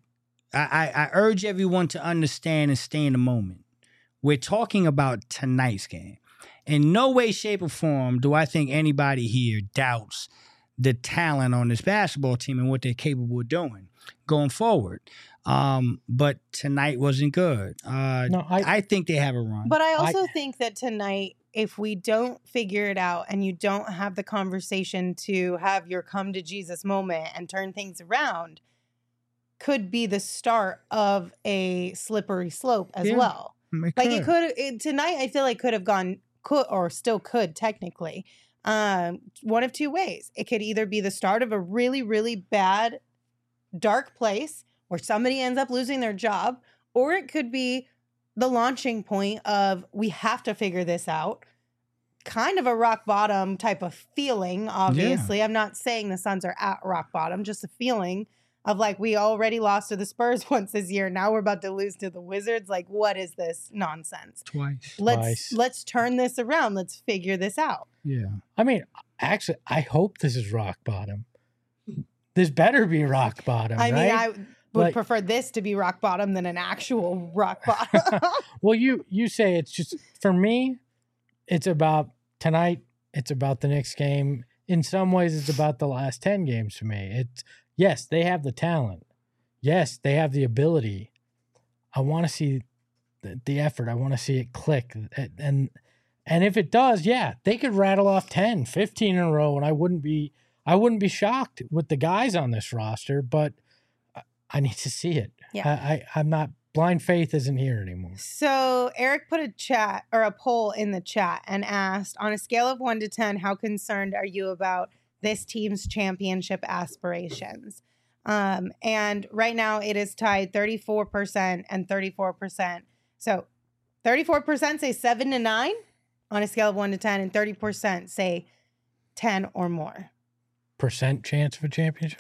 I urge everyone to understand and stay in the moment. We're talking about tonight's game. In no way, shape, or form do I think anybody here doubts the talent on this basketball team and what they're capable of doing going forward. But tonight wasn't good. I think they have a run. But I also think that tonight, if we don't figure it out and you don't have the conversation to have your come to Jesus moment and turn things around, could be the start of a slippery slope as well. It could tonight. I feel like could have gone or still could technically one of two ways. It could either be the start of a really, really bad, dark place where somebody ends up losing their job, or it could be the launching point of we have to figure this out. Kind of a rock bottom type of feeling, obviously. Yeah. I'm not saying the Suns are at rock bottom, just a feeling of like, we already lost to the Spurs once this year. Now we're about to lose to the Wizards. Like, what is this nonsense? Twice. Let's turn this around. Let's figure this out. Yeah. I mean, actually, I hope this is rock bottom. This better be rock bottom, I right? mean, I would prefer this to be rock bottom than an actual rock bottom. Well, you say it's just, for me, it's about tonight. It's about the next game. In some ways, it's about the last 10 games for me. Yes, they have the talent. Yes, they have the ability. I want to see the effort. I want to see it click. And if it does, yeah, they could rattle off 10, 15 in a row, and I wouldn't be shocked with the guys on this roster, but I need to see it. Yeah. I'm not, blind faith isn't here anymore. So Eric put a poll in the chat and asked, on a scale of 1 to 10, how concerned are you about this team's championship aspirations? And right now it is tied 34% and 34%. So 34% say 7 to 9 on a scale of 1 to 10, and 30% say 10 or more. Percent chance of a championship?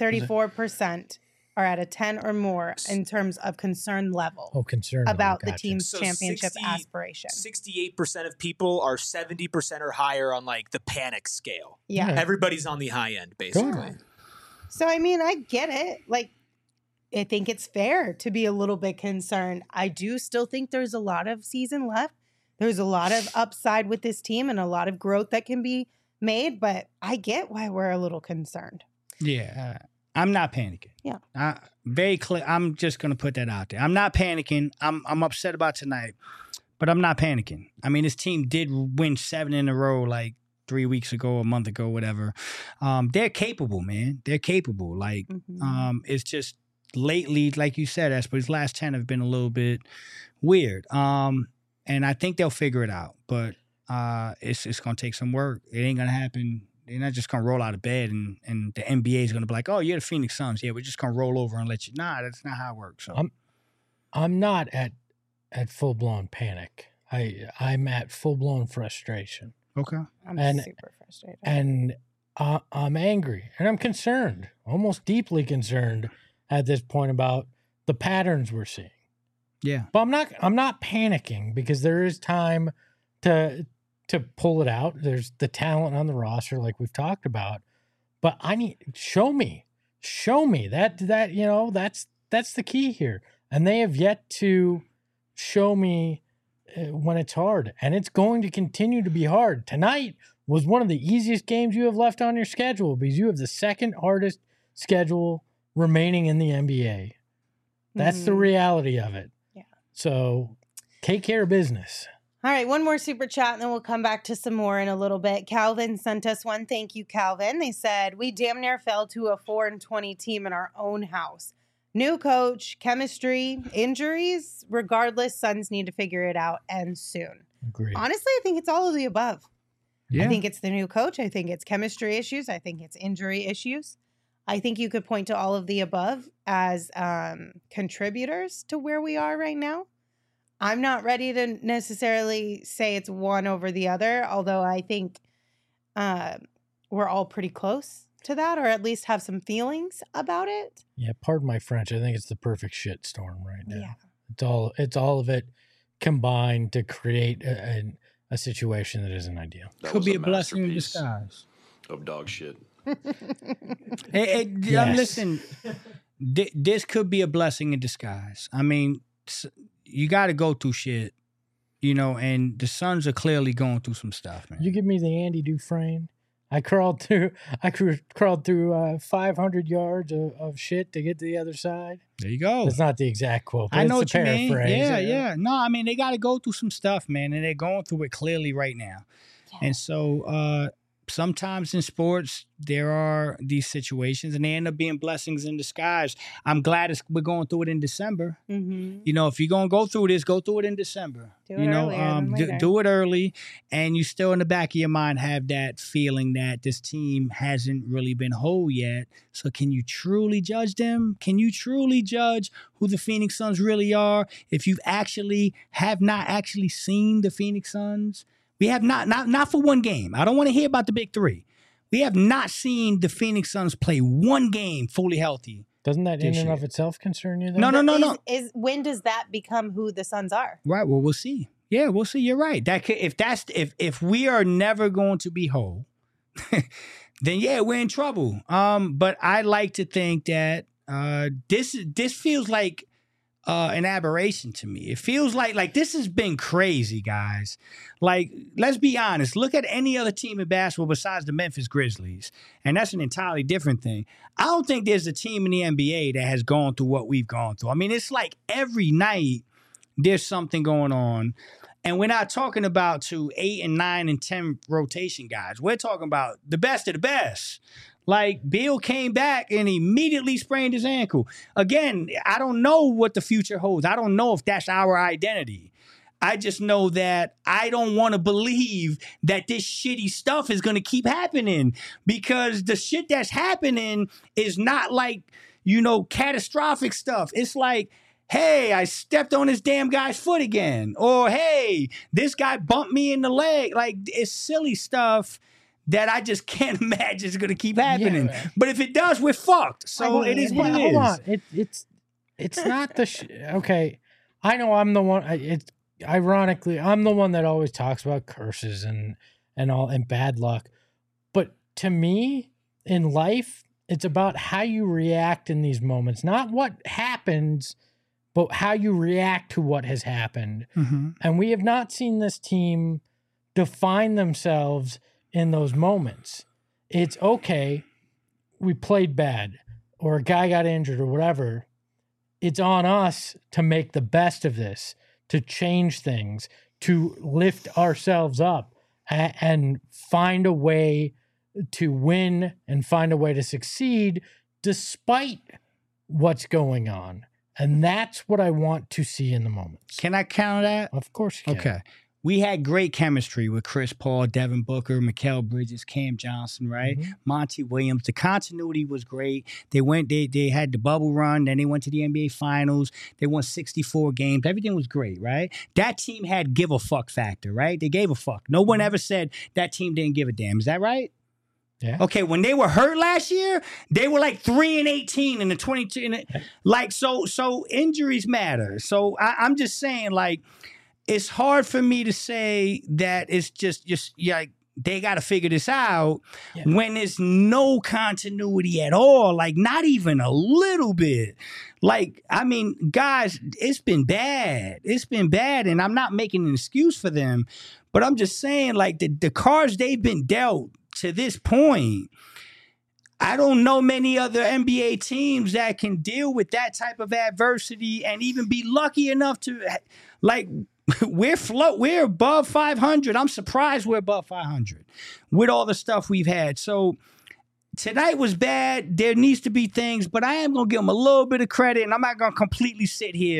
34% are at a 10 or more in terms of concern level. Oh, concern about level. the team's championship aspiration. 68% of people are 70% or higher on like the panic scale. Yeah. Everybody's on the high end, basically. Good. So, I mean, I get it. Like, I think it's fair to be a little bit concerned. I do still think there's a lot of season left. There's a lot of upside with this team and a lot of growth that can be made, but I get why we're a little concerned. Yeah. I'm not panicking. Yeah. Very clear. I'm just going to put that out there. I'm not panicking. I'm upset about tonight, but I'm not panicking. I mean, this team did win 7 in a row like 3 weeks ago, a month ago, whatever. They're capable, man. They're capable. Like, it's just lately, like you said, Espo, these last 10 have been a little bit weird. And I think they'll figure it out, but it's going to take some work. It ain't going to happen. They're not just going to roll out of bed and the NBA is going to be like, oh, you're the Phoenix Suns. Yeah, we're just going to roll over and let you. Nah, that's not how it works. So I'm not at full-blown panic. I'm at full-blown frustration. Okay. I'm super frustrated. And I'm angry and I'm concerned, almost deeply concerned at this point about the patterns we're seeing. Yeah. But I'm not panicking because there is time to pull it out. There's the talent on the roster, like we've talked about. But I need show me that you know that's the key here. And they have yet to show me when it's hard, and it's going to continue to be hard. Tonight was one of the easiest games you have left on your schedule because you have the second hardest schedule remaining in the NBA. That's the reality of it. Yeah. So take care of business. All right, one more super chat, and then we'll come back to some more in a little bit. Calvin sent us one. Thank you, Calvin. They said, we damn near fell to a 4-20 team in our own house. New coach, chemistry, injuries. Regardless, Suns need to figure it out, and soon. Agreed. Honestly, I think it's all of the above. Yeah. I think it's the new coach. I think it's chemistry issues. I think it's injury issues. I think you could point to all of the above as contributors to where we are right now. I'm not ready to necessarily say it's one over the other, although I think we're all pretty close to that, or at least have some feelings about it. Yeah, pardon my French. I think it's the perfect shit storm right now. Yeah. It's all of it combined to create a situation that isn't ideal. That Could was be a blessing in masterpiece disguise. of dog shit. Yes. Listen, this could be a blessing in disguise. I mean, you got to go through shit, and the Suns are clearly going through some stuff, man. You give me the Andy Dufresne. I crawled through 500 yards of shit to get to the other side. There you go. That's not the exact quote. But I know it's what a you mean. paraphrase. Yeah. No, I mean, they got to go through some stuff, man, and they're going through it clearly right now. Yeah. And so sometimes in sports, there are these situations, and they end up being blessings in disguise. I'm glad we're going through it in December. Mm-hmm. If you're going to go through this, go through it in December. Do it earlier than later. Do it early, and you still in the back of your mind have that feeling that this team hasn't really been whole yet. So can you truly judge them? Can you truly judge who the Phoenix Suns really are if you have not actually seen the Phoenix Suns? We have not for one game. I don't want to hear about the big three. We have not seen the Phoenix Suns play one game fully healthy. Doesn't that in This and of year. itself concern you? Though? No. When does that become who the Suns are? Right. Well, we'll see. Yeah, we'll see. You're right. If we are never going to be whole, then yeah, we're in trouble. But I like to think that this feels like an aberration to me. It feels like this has been crazy, guys. Like, let's be honest. Look at any other team in basketball besides the Memphis Grizzlies, and that's an entirely different thing. I don't think there's a team in the NBA that has gone through what we've gone through. I mean, it's like every night there's something going on. And we're not talking about 2, 8, and 9, and 10 rotation guys. We're talking about the best of the best. Like, Beal came back and immediately sprained his ankle. Again, I don't know what the future holds. I don't know if that's our identity. I just know that I don't want to believe that this shitty stuff is going to keep happening, because the shit that's happening is not like, catastrophic stuff. It's like, hey, I stepped on this damn guy's foot again. Or, hey, this guy bumped me in the leg. Like, it's silly stuff that I just can't imagine is going to keep happening. Yeah. But if it does, we're fucked. So it is what it is. Hold on. It's not the okay. I know I'm the one. It's ironically, I'm the one that always talks about curses and bad luck. But to me, in life, it's about how you react in these moments, not what happens, but how you react to what has happened. Mm-hmm. And we have not seen this team define themselves in those moments. It's okay, we played bad, or a guy got injured, or whatever. It's on us to make the best of this, to change things, to lift ourselves up and find a way to win and find a way to succeed despite what's going on. And that's what I want to see in the moments. Can I counter that? Of course you can. Okay. We had great chemistry with Chris Paul, Devin Booker, Mikal Bridges, Cam Johnson, right? Mhm. Monty Williams. The continuity was great. They had the bubble run, then they went to the NBA Finals. They won 64 games. Everything was great, right? That team had give a fuck factor, right? They gave a fuck. No one ever said that team didn't give a damn. Is that right? Yeah. Okay, when they were hurt last year, they were like 3-18 in the 22. So injuries matter. So I'm just saying, like, it's hard for me to say that it's just like they got to figure this out when there's no continuity at all, like not even a little bit. Like, I mean, guys, it's been bad. It's been bad, and I'm not making an excuse for them, but I'm just saying, like, the cards they've been dealt to this point, I don't know many other NBA teams that can deal with that type of adversity and even be lucky enough to, like, we're above 500. I'm surprised we're above 500 with all the stuff we've had. So tonight was bad. There needs to be things, but I am going to give them a little bit of credit, and I'm not going to completely sit here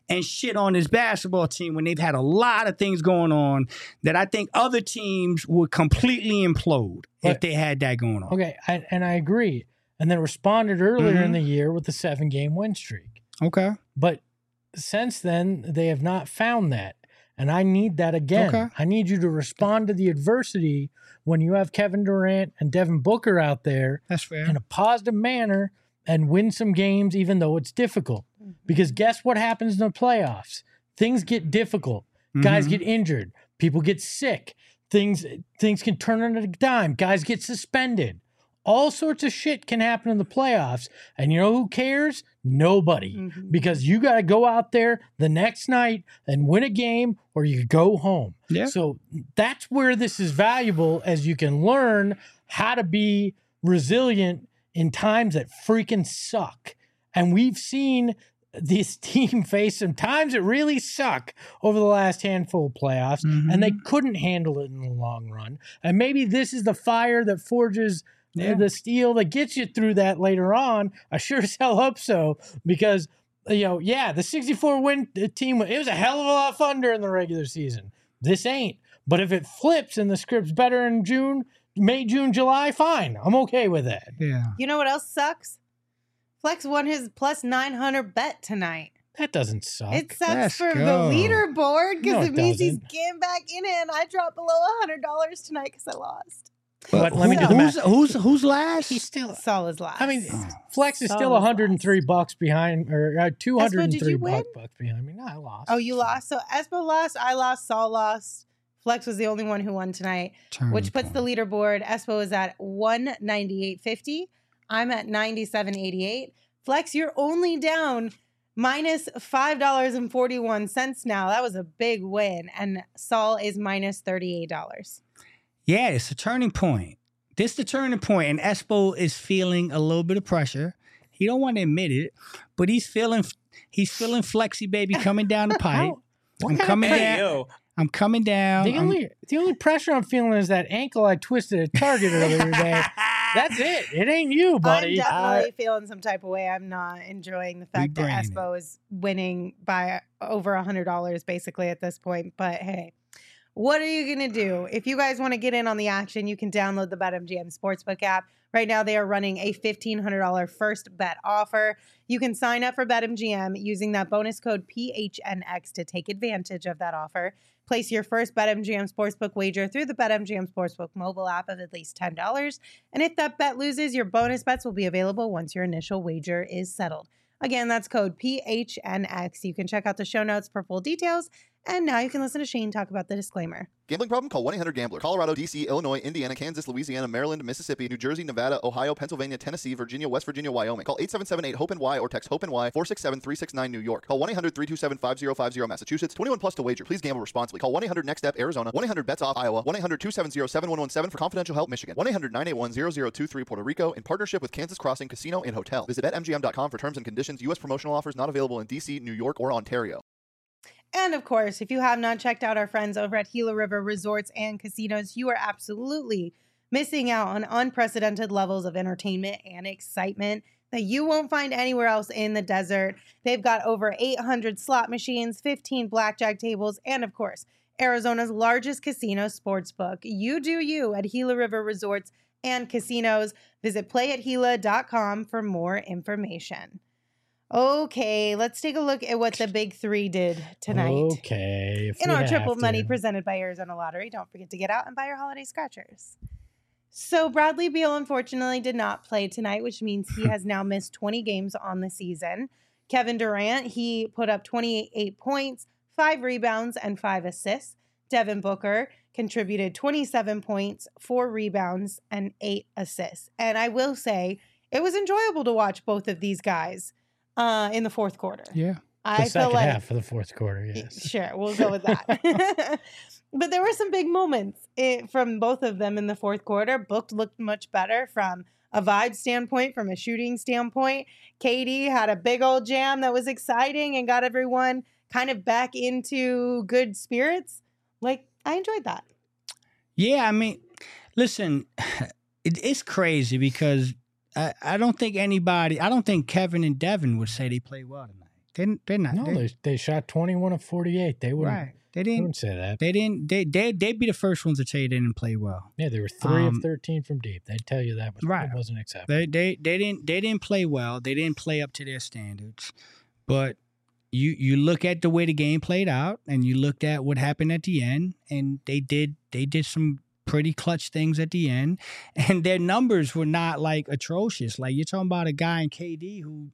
and shit on this basketball team when they've had a lot of things going on that I think other teams would completely implode if they had that going on. Okay, and I agree. And then responded earlier in the year with the 7-game win streak. Okay. But since then, they have not found that. And I need that again. Okay. I need you to respond to the adversity when you have Kevin Durant and Devin Booker out there That's fair. in a positive manner and win some games, even though it's difficult. Because guess what happens in the playoffs? Things get difficult. Guys get injured. People get sick. Things can turn on a dime. Guys get suspended. All sorts of shit can happen in the playoffs. And you know who cares? Nobody. Because you got to go out there the next night and win a game or you go home. Yeah. So that's where this is valuable, as you can learn how to be resilient in times that freaking suck. And we've seen this team face some times that really suck over the last handful of playoffs, and they couldn't handle it in the long run. And maybe this is the fire that forges the steel that gets you through that later on. I sure as hell hope so, because, the 64-win team, it was a hell of a lot of fun during the regular season. This ain't. But if it flips and the script's better in May, June, July, fine. I'm okay with that. Yeah. You know what else sucks? Flex won his plus 900 bet tonight. That doesn't suck. It sucks Let's for go. the leaderboard because No, it it means he's doesn't. getting back in it, and I dropped below $100 tonight because I lost. But let me do the math. Who's last? He's still. Saul is last. I mean, Flex is Saul still was $103 behind, or $203 did you win? bucks behind me. No, I lost. Oh, you lost. So Espo lost, I lost, Saul lost. Flex was the only one who won tonight, which puts the leaderboard. Espo is at 198.50. I'm at 97.88. Flex, you're only down minus $5.41 now. That was a big win. And Saul is minus $38. Yeah, it's a turning point. This is the turning point, and Espo is feeling a little bit of pressure. He don't want to admit it, but he's feeling Flexi baby coming down the pipe. I'm coming down. I'm coming down. The only pressure I'm feeling is that ankle I twisted at Target earlier today. That's it. It ain't you, buddy. I'm definitely feeling some type of way. I'm not enjoying the fact that Espo is winning by over $100 basically at this point. But hey, what are you going to do? If you guys want to get in on the action, you can download the BetMGM Sportsbook app. Right now, they are running a $1,500 first bet offer. You can sign up for BetMGM using that bonus code PHNX to take advantage of that offer. Place your first BetMGM Sportsbook wager through the BetMGM Sportsbook mobile app of at least $10. And if that bet loses, your bonus bets will be available once your initial wager is settled. Again, that's code PHNX. You can check out the show notes for full details. And now you can listen to Shane talk about the disclaimer. Gambling problem? Call 1-800-GAMBLER. Colorado, D.C., Illinois, Indiana, Kansas, Louisiana, Maryland, Mississippi, New Jersey, Nevada, Ohio, Pennsylvania, Tennessee, Virginia, West Virginia, Wyoming. Call 877-8-HOPE-NY or text HOPE-NY 467-369 New York. Call 1-800-327-5050 Massachusetts. 21 plus to wager. Please gamble responsibly. Call 1-800-NEXT-STEP Arizona. 1-800-BETS-OFF Iowa. 1-800-270-7117 for confidential help Michigan. 1-800-981-0023 Puerto Rico in partnership with Kansas Crossing Casino and Hotel. Visit BetMGM.com for terms and conditions. U.S. promotional offers not available in D.C., New York, or Ontario. And of course, if you have not checked out our friends over at Gila River Resorts and Casinos, you are absolutely missing out on unprecedented levels of entertainment and excitement that you won't find anywhere else in the desert. They've got over 800 slot machines, 15 blackjack tables, and of course, Arizona's largest casino sportsbook. You do you at Gila River Resorts and Casinos. Visit playathila.com for more information. Okay, let's take a look at what the big three did tonight. Okay. In our triple money presented by Arizona Lottery. Don't forget to get out and buy your holiday scratchers. So Bradley Beal unfortunately did not play tonight, which means he has now missed 20 games on the season. Kevin Durant, he put up 28 points, 5 rebounds, and 5 assists. Devin Booker contributed 27 points, 4 rebounds, and 8 assists. And I will say, it was enjoyable to watch both of these guys in the fourth quarter. Yeah. The second half of the fourth quarter, yes. Sure, we'll go with that. But there were some big moments from both of them in the fourth quarter. Book looked much better from a vibe standpoint, from a shooting standpoint. Katie had a big old jam that was exciting and got everyone kind of back into good spirits. Like, I enjoyed that. Yeah, I mean, listen, it's crazy because I don't think Kevin and Devin would say they played well tonight. They're not. No, they shot 21 of 48. They wouldn't. Right. They didn't wouldn't say that. They didn't. They'd be the first ones to tell you they didn't play well. Yeah, they were 3 of 13 from deep. They'd tell you that Right. It wasn't acceptable. They didn't play well. They didn't play up to their standards. But you look at the way the game played out, and you looked at what happened at the end, and they did some pretty clutch things at the end, and their numbers were not like atrocious. Like, you're talking about a guy in KD who.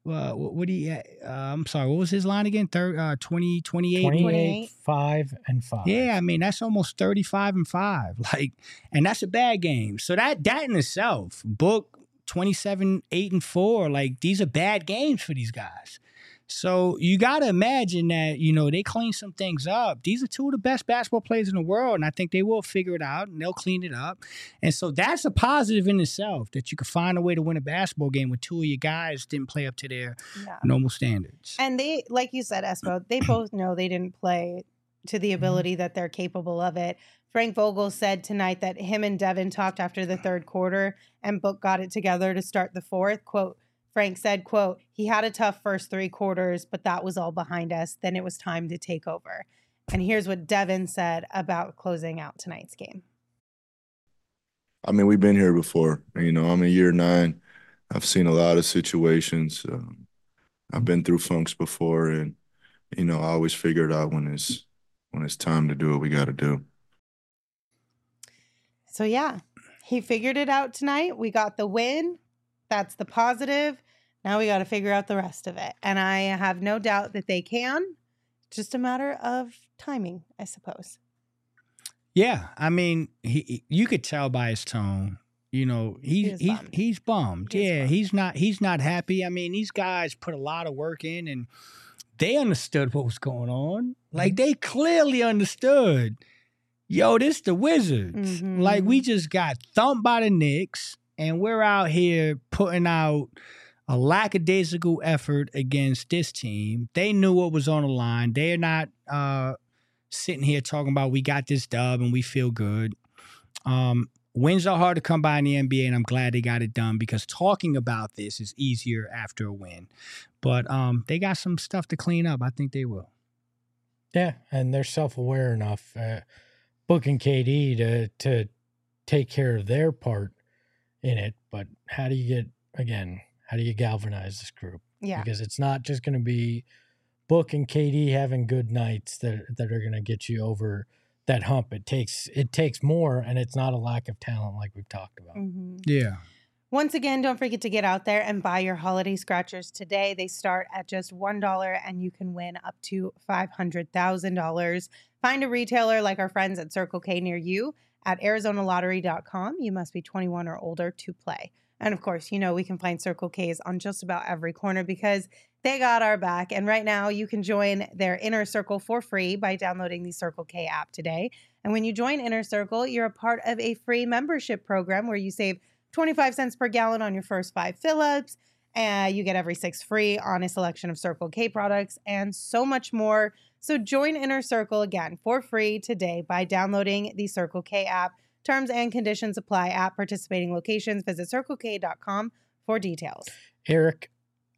I'm sorry, what was his line again? 28? 28, 5, and 5. Yeah, I mean, that's almost 35 and 5. Like, and that's a bad game. So that in itself, Book 27, 8 and 4, like, these are bad games for these guys. So you got to imagine that, they clean some things up. These are two of the best basketball players in the world, and I think they will figure it out, and they'll clean it up. And so that's a positive in itself, that you could find a way to win a basketball game when two of your guys didn't play up to their normal standards. And they, like you said, Espo, they both know they didn't play to the ability that they're capable of it. Frank Vogel said tonight that him and Devin talked after the third quarter, and Book got it together to start the fourth. Quote, Frank said, quote, he had a tough first 3 quarters, but that was all behind us. Then it was time to take over. And here's what Devin said about closing out tonight's game. I mean, we've been here before. I'm in year 9. I've seen a lot of situations. I've been through funks before, and, I always figure it out when it's time to do what we got to do. So, yeah, he figured it out tonight. We got the win. That's the positive. Now we got to figure out the rest of it. And I have no doubt that they can. Just a matter of timing, I suppose. Yeah, I mean, you could tell by his tone. He's bummed. He's not happy. I mean, these guys put a lot of work in, and they understood what was going on. Like, they clearly understood. Yo, this the Wizards. Mm-hmm. Like, we just got thumped by the Knicks. And we're out here putting out a lackadaisical effort against this team. They knew what was on the line. They're not sitting here talking about we got this dub and we feel good. Wins are hard to come by in the NBA, and I'm glad they got it done, because talking about this is easier after a win. But they got some stuff to clean up. I think they will. Yeah, and they're self-aware enough, Book and KD, to take care of their part in it. But how do you galvanize this group? Yeah. Because it's not just going to be Book and KD having good nights that are going to get you over that hump. It takes more, and it's not a lack of talent like we've talked about. Mm-hmm. Yeah. Once again, don't forget to get out there and buy your holiday scratchers today. They start at just $1, and you can win up to $500,000. Find a retailer like our friends at Circle K near you at ArizonaLottery.com. You must be 21 or older to play. And of course, we can find Circle K's on just about every corner because they got our back. And right now, you can join their Inner Circle for free by downloading the Circle K app today. And when you join Inner Circle, you're a part of a free membership program where you save 25 cents per gallon on your first 5 fill-ups. And you get every 6 free on a selection of Circle K products and so much more. So join Inner Circle again for free today by downloading the Circle K app. Terms and conditions apply at participating locations. Visit CircleK.com for details. Eric,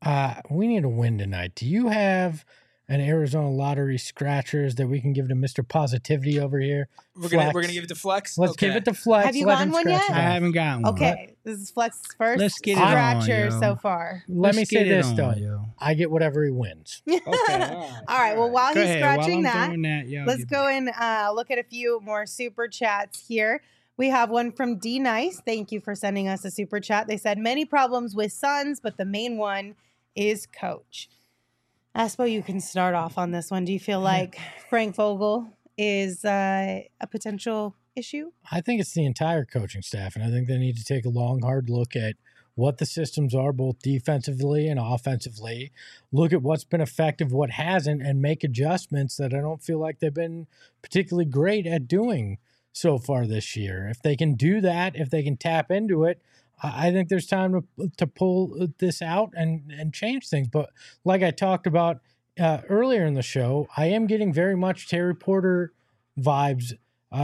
we need a win tonight. Do you have an Arizona Lottery scratchers that we can give to Mr. Positivity over here? We're gonna give it to Flex. Let's give it to Flex. Have you Let gotten him one scratch yet? it I off. haven't gotten one. Okay, this is Flex's first Let's get it on, scratcher yo. so far. Let me Let's say get it this, on, though. yo. I get whatever he wins. Okay. All right. Well, while Go he's ahead. scratching While I'm that, doing that, yo, let's give go me- and look at a few more super chats here. We have one from D Nice. Thank you for sending us a super chat. They said many problems with Suns, but the main one is coach. Espo, you can start off on this one. Do you feel like Frank Vogel is a potential issue? I think it's the entire coaching staff, and I think they need to take a long, hard look at what the systems are, both defensively and offensively. Look at what's been effective, what hasn't, and make adjustments that I don't feel like they've been particularly great at doing so far this year. If they can do that, if they can tap into it, I think there's time to pull this out and change things. But like I talked about earlier in the show, I am getting very much Terry Porter vibes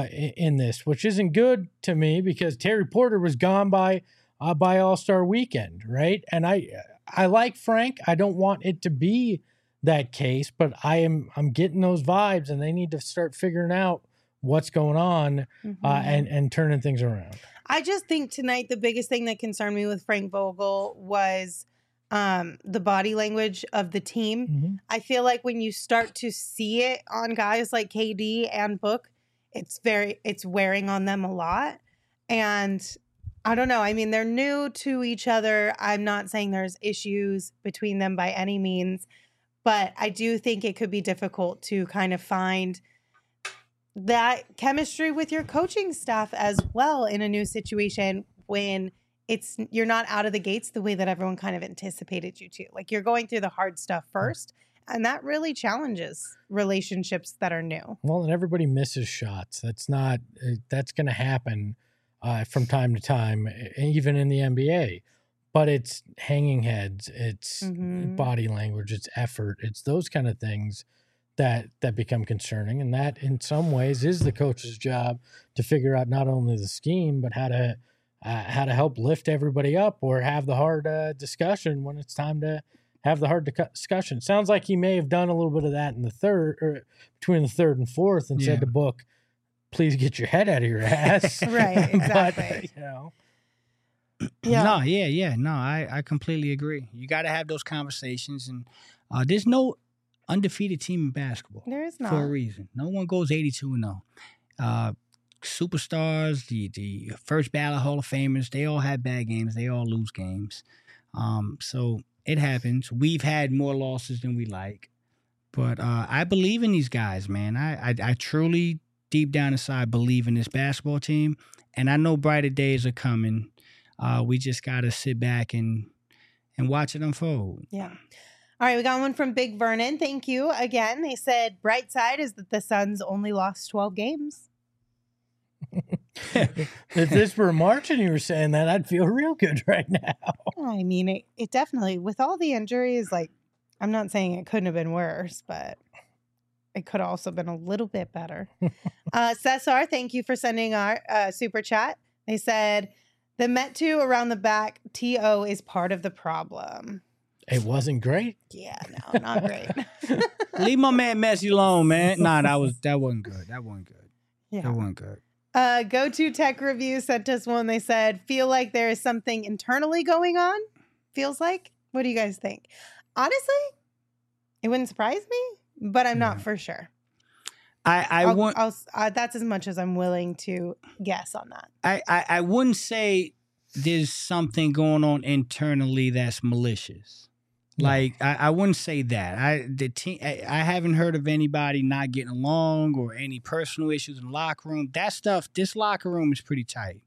in this, which isn't good to me because Terry Porter was gone by All-Star weekend, right? And I like Frank. I don't want it to be that case, but I'm getting those vibes, and they need to start figuring out what's going on and turning things around. I just think tonight the biggest thing that concerned me with Frank Vogel was the body language of the team. I feel like when you start to see it on guys like KD and Book, it's wearing on them a lot. And I don't know. I mean, they're new to each other. I'm not saying there's issues between them by any means, but I do think it could be difficult to kind of find that chemistry with your coaching staff as well in a new situation when you're not out of the gates the way that everyone kind of anticipated you to. Like, you're going through the hard stuff first, and that really challenges relationships that are new. Well, and everybody misses shots. That's going to happen from time to time, even in the NBA. But it's hanging heads, it's body language, it's effort, it's those kind of things that become concerning. And that, in some ways, is the coach's job to figure out not only the scheme, but how to help lift everybody up or have the hard discussion when it's time to have the hard discussion. Sounds like he may have done a little bit of that in the third, or between the third and fourth, and said to Book, please get your head out of your ass. Right, exactly. But, No, I completely agree. You got to have those conversations, and there's no undefeated team in basketball. There is not. For a reason. No one goes 82-0. Superstars, the first ballot Hall of Famers, they all have bad games. They all lose games. So it happens. We've had more losses than we like. But I believe in these guys, man. I truly, deep down inside, believe in this basketball team. And I know brighter days are coming. We just got to sit back and watch it unfold. Yeah. All right, we got one from Big Vernon. Thank you again. They said, bright side is that the Suns only lost 12 games. If this were March and you were saying that, I'd feel real good right now. I mean, it definitely, with all the injuries, like, I'm not saying it couldn't have been worse, but it could have also been a little bit better. Cesar, thank you for sending our super chat. They said, the Met2 around the back, TO is part of the problem. It wasn't great. Yeah, no, not great. Leave my man Messi alone, man. Nah, that wasn't good. That wasn't good. Yeah. That wasn't good. Go to Tech Review sent us one. They said, feel like there is something internally going on. Feels like. What do you guys think? Honestly, it wouldn't surprise me, but I'm not for sure. That's as much as I'm willing to guess on that. I wouldn't say there's something going on internally that's malicious. Like, I wouldn't say that. I haven't heard of anybody not getting along or any personal issues in the locker room. That stuff, this locker room is pretty tight.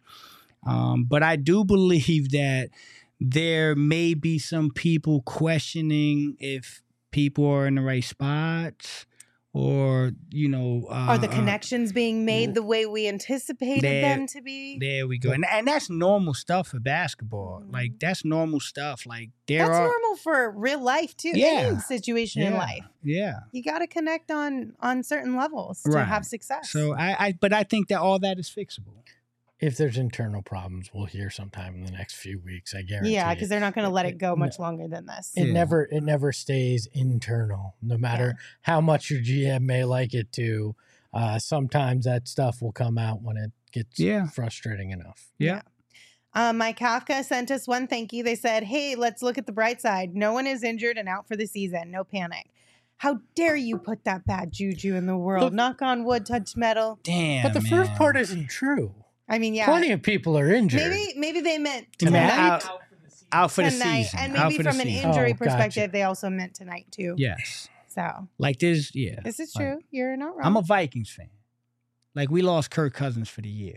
But I do believe that there may be some people questioning if people are in the right spots, or, are the connections being made the way we anticipated them to be? There we go. And that's normal stuff for basketball. Like, that's normal stuff. Like, that's normal for real life too. Any situation in life. Yeah. You got to connect on certain levels to have success. So but I think that all that is fixable. If there's internal problems, we'll hear sometime in the next few weeks, I guarantee. Yeah, because they're not going to let it go much longer than this. It never stays internal, no matter how much your GM may like it to. Sometimes that stuff will come out when it gets frustrating enough. Yeah. Mike Kafka sent us one thank you. They said, hey, let's look at the bright side. No one is injured and out for the season. No panic. How dare you put that bad juju in the world? Knock on wood, touch metal. Damn, but the first part isn't true. I mean, yeah. Plenty of people are injured. Maybe they meant tonight. Out for the season. And maybe from an injury perspective, they also meant tonight too. Yes. So. Like this, This is true. You're not wrong. I'm a Vikings fan. Like, we lost Kirk Cousins for the year.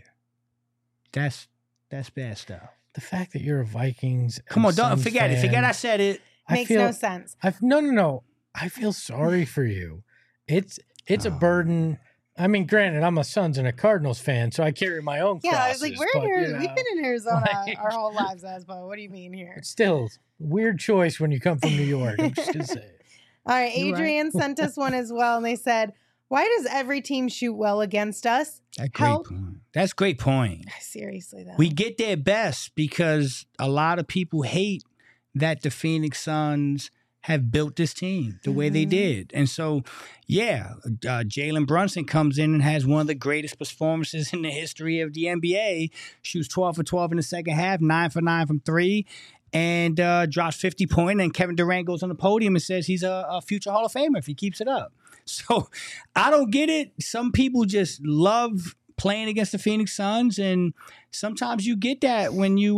That's bad stuff. The fact that you're a Vikings. Come on, don't forget it. Forget I said it. Makes no sense. No. I feel sorry for you. It's a burden. I mean, granted, I'm a Suns and a Cardinals fan, so I carry my own crosses. Yeah, I was like, we've been in Arizona our whole lives, Asbo. What do you mean here? It's still weird choice when you come from New York. I'm just going to say it. All right, Adrian sent us one as well, and they said, why does every team shoot well against us? That's a great point. Seriously, though. We get their best because a lot of people hate that the Phoenix Suns have built this team the way they did. And so, Jalen Brunson comes in and has one of the greatest performances in the history of the NBA. Shoots 12 for 12 in the second half, 9 for 9 from three, and drops 50 points. And Kevin Durant goes on the podium and says he's a future Hall of Famer if he keeps it up. So I don't get it. Some people just love playing against the Phoenix Suns, and sometimes you get that when you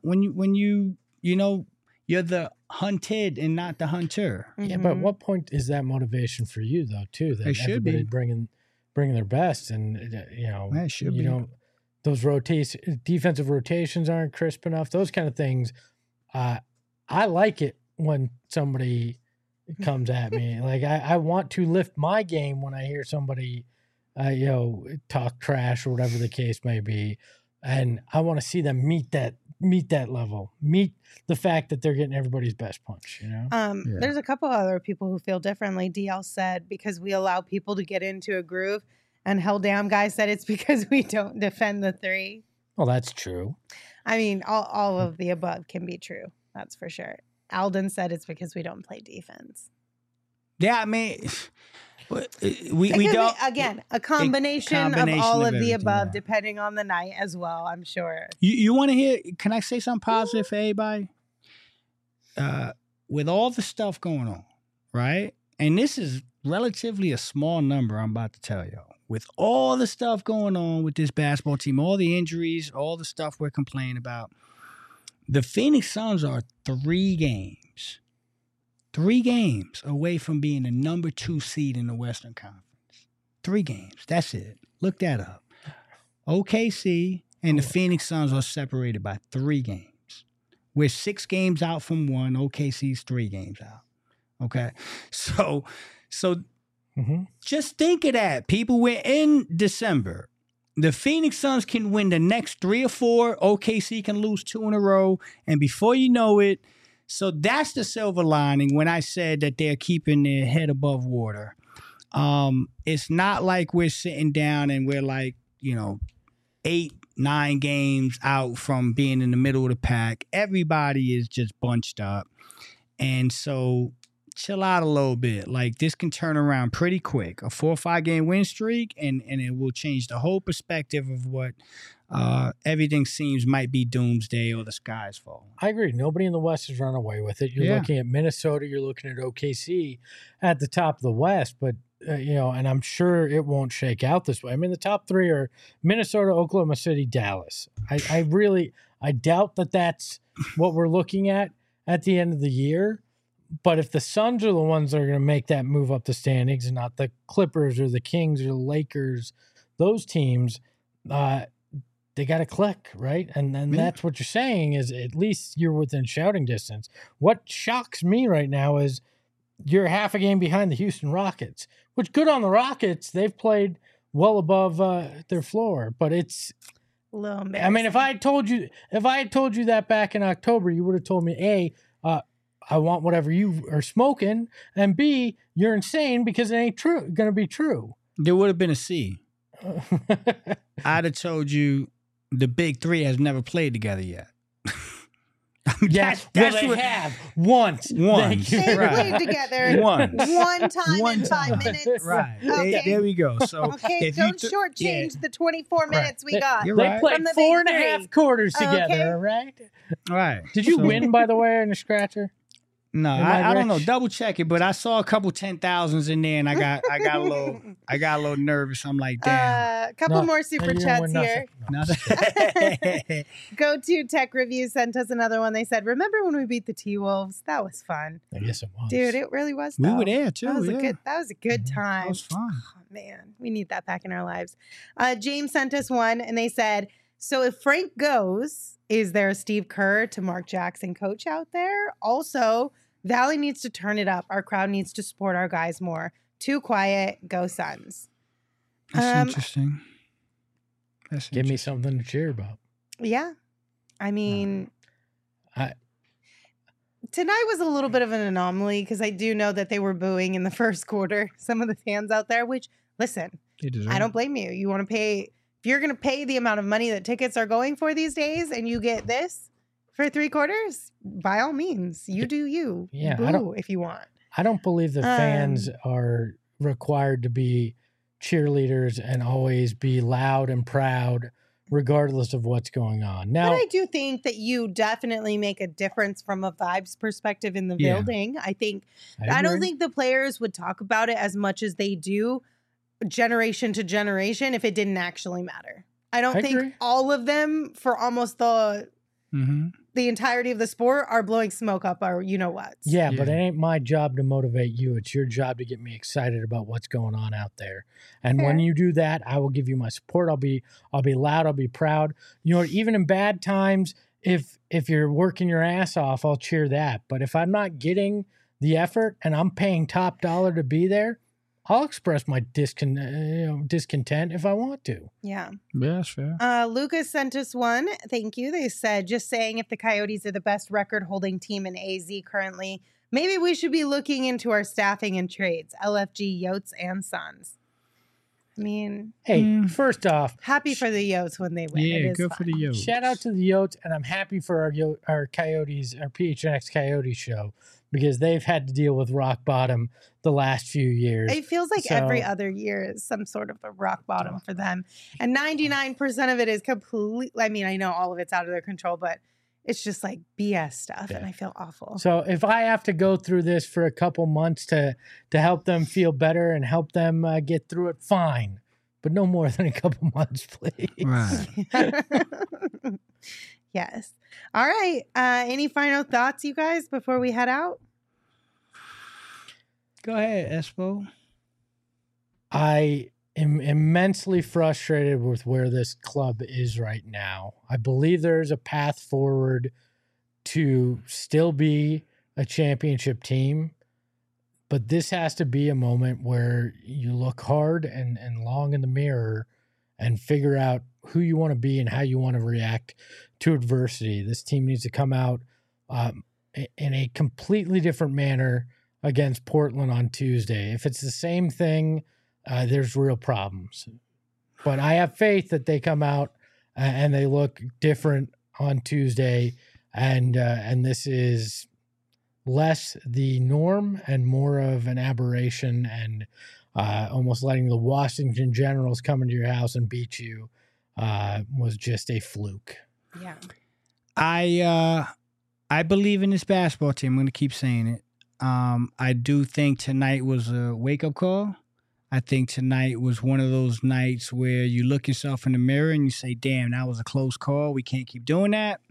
you're the hunted and not the hunter. Yeah, but at what point is that motivation for you though? Too that It should everybody be. bringing their best, and It should you be. know, those defensive rotations aren't crisp enough. Those kind of things. I like it when somebody comes at me. Like I want to lift my game when I hear somebody, talk trash or whatever the case may be, and I want to see them meet that level, meet the fact that they're getting everybody's best punch. There's a couple other people who feel differently. DL said because we allow people to get into a groove, and Hell Damn Guy said it's because we don't defend the three. Well, that's true. I mean, all of the above can be true. That's for sure. Alden said it's because we don't play defense. Yeah, I mean, we It don't. could be, again, a combination of combination all of of the everything, above, yeah. depending on the night as well, I'm sure. You want to hear? Can I say something positive for everybody? With all the stuff going on, right? And this is relatively a small number I'm about to tell y'all. With all the stuff going on with this basketball team, all the injuries, all the stuff we're complaining about, the Phoenix Suns are 3 games away from being the number 2 seed in the Western Conference. 3 games. That's it. Look that up. OKC and the Phoenix Suns are separated by 3 games. We're 6 games out from 1. OKC's 3 games out. Okay? So just think of that. People, we're in December. The Phoenix Suns can win the next 3 or 4. OKC can lose 2 in a row. And before you know it, so that's the silver lining when I said that they're keeping their head above water. It's not like we're sitting down and we're like, 8, 9 games out from being in the middle of the pack. Everybody is just bunched up. And so chill out a little bit. Like, this can turn around pretty quick. A 4 or 5 game win streak, and it will change the whole perspective of what everything seems might be doomsday or the sky's falling. I agree. Nobody in the West has run away with it. You're looking at Minnesota. You're looking at OKC at the top of the West, but and I'm sure it won't shake out this way. I mean, the top 3 are Minnesota, Oklahoma City, Dallas. I doubt that that's what we're looking at the end of the year. But if the Suns are the ones that are going to make that move up the standings and not the Clippers or the Kings or the Lakers, those teams, they got to click, right? And then that's what you're saying is at least you're within shouting distance. What shocks me right now is you're half a game behind the Houston Rockets, which good on the Rockets. They've played well above their floor, but it's A little embarrassing. I mean, if I had told you that back in October, you would have told me, A, I want whatever you are smoking, and B, you're insane because it ain't going to be true. There would have been a C. I'd have told you the big 3 has never played together yet. Yes, that's they what- have once. Once. They Right. played together Once. one time One in 5 time. minutes. Right. Okay. There we go. So Okay, if you don't took- shortchange the 24 minutes we got. You're They right. played From the four big and a three. half quarters together, Okay. all right? Right. Did you So- win, by the way, in the scratcher? No, Am I I don't know. rich? Double check it, but I saw a couple 10,000s in there, and I got a little nervous. I'm like, damn. A couple No, more super you didn't chats win here. nothing. Nothing. Go to Tech Review sent us another one. They said, "Remember when we beat the T-Wolves? That was fun, I guess it was. dude. It really was. We though. were there too. That was yeah. a good time. That was fun. Oh, man, we need that back in our lives. James sent us one, and they said, "So if Frank goes, is there a Steve Kerr to Mark Jackson coach out there? Also, Valley needs to turn it up. Our crowd needs to support our guys more. Too quiet. Go Suns." That's interesting. That's Give me interesting. something to cheer about. Yeah, I mean, I- tonight was a little bit of an anomaly because I do know that they were booing in the first quarter. Some of the fans out there, which listen. They deserve I don't it. blame you. You want to pay, if you're going to pay the amount of money that tickets are going for these days and you get this, For 3 quarters, by all means, you do you. Yeah, Boo if you want. I don't believe the fans are required to be cheerleaders and always be loud and proud regardless of what's going on. Now, But I do think that you definitely make a difference from a vibes perspective in the Yeah. building. I don't agree. think the players would talk about it as much as they do generation to generation if it didn't actually matter. I don't I think agree. all of them for almost the Mhm. entirety of the sport are blowing smoke up our what. Yeah, but Yeah. it ain't my job to motivate you. It's your job to get me excited about what's going on out there. And when Fair. you do that, I will give you my support. I'll be loud. I'll be proud. You know, even in bad times, if you're working your ass off, I'll cheer that. But if I'm not getting the effort and I'm paying top dollar to be there, I'll express my discontent if I want to. Yeah. Yeah, that's fair. Lucas sent us one. Thank you. They said, just saying, if the Coyotes are the best record holding team in AZ currently, maybe we should be looking into our staffing and trades. LFG, Yotes, and Suns. I mean, Hey, first off, happy for the Yotes when they win. It Yeah, is good for fun. the Yotes. shout out to the Yotes, and I'm happy for our Coyotes, our PHNX Coyotes show, because they've had to deal with rock bottom the last few years. It feels like So- every other year is some sort of a rock bottom for them. And 99% of it is complete. I mean, I know all of it's out of their control, but it's just like BS stuff. And Yeah. I feel awful. So if I have to go through this for a couple months to help them feel better and help them get through it, fine. But no more than a couple months, please. Right. Yes. All right. Any final thoughts, you guys, before we head out? Go ahead, Espo. I am immensely frustrated with where this club is right now. I believe there's a path forward to still be a championship team, but this has to be a moment where you look hard and long in the mirror and figure out who you want to be and how you want to react to adversity. This team needs to come out in a completely different manner against Portland on Tuesday. If it's the same thing, there's real problems. But I have faith that they come out and they look different on Tuesday, and this is less the norm and more of an aberration, and almost letting the Washington Generals come into your house and beat you was just a fluke. Yeah. I believe in this basketball team. I'm going to keep saying it. I do think tonight was a wake-up call. I think tonight was one of those nights where you look yourself in the mirror and you say, damn, that was a close call. We can't keep doing that.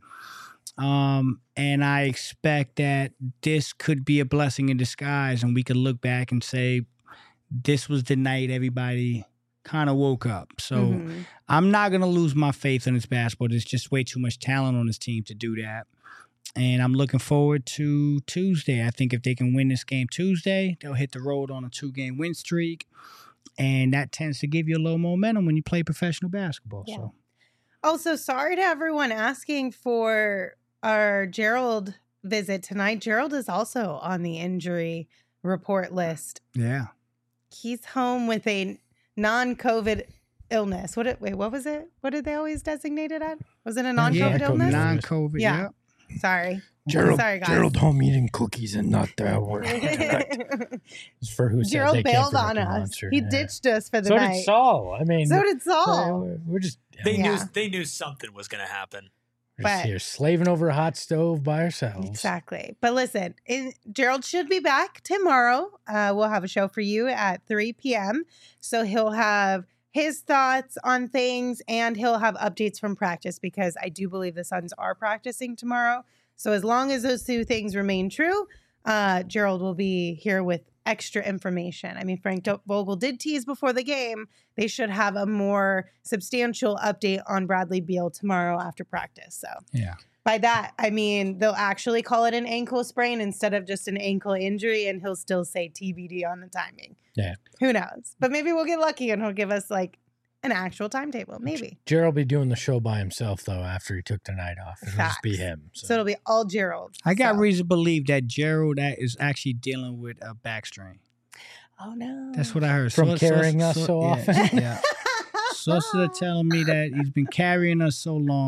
And I expect that this could be a blessing in disguise, and we could look back and say, this was the night everybody kind of woke up. So Mhm. I'm not going to lose my faith in this basketball. There's just way too much talent on this team to do that. And I'm looking forward to Tuesday. I think if they can win this game Tuesday, they'll hit the road on a 2-game win streak. And that tends to give you a little momentum when you play professional basketball. Yeah. So Also, sorry to everyone asking for our Gerald visit tonight. Gerald is also on the injury report list. yeah. He's home with a non-COVID illness. What was it? What did they always designate it at? Was it a non-COVID Yeah, illness? Non-COVID. Yeah. Yeah. Sorry. Gerald, Sorry, guys. Gerald home eating cookies and not working tonight. It's for who said Gerald they can't bailed predict on a us. monster. He Yeah. ditched us for the So night. did Saul. I mean, So did Saul. we're just They Yeah. knew something was going to happen. we're but- just here slaving over a hot stove by ourselves. Exactly. But listen, Gerald should be back tomorrow. We'll have a show for you at 3 p.m. So he'll have his thoughts on things and he'll have updates from practice, because I do believe the Suns are practicing tomorrow. So as long as those two things remain true, Gerald will be here with extra information. I mean, Frank Vogel did tease before the game. They should have a more substantial update on Bradley Beal tomorrow after practice. So Yeah. by that, I mean, they'll actually call it an ankle sprain instead of just an ankle injury, and he'll still say TBD on the timing. Yeah. Who knows? But maybe we'll get lucky and he'll give us like an actual timetable. Maybe. Gerald will be doing the show by himself though after he took the night off. It'll just be Facts. him. So it'll be all Gerald. I got So- reason to believe that Gerald is actually dealing with a back strain. Oh, no. That's what I heard. From carrying us so yeah, often? Yeah. Sources are telling me that he's been carrying us so long,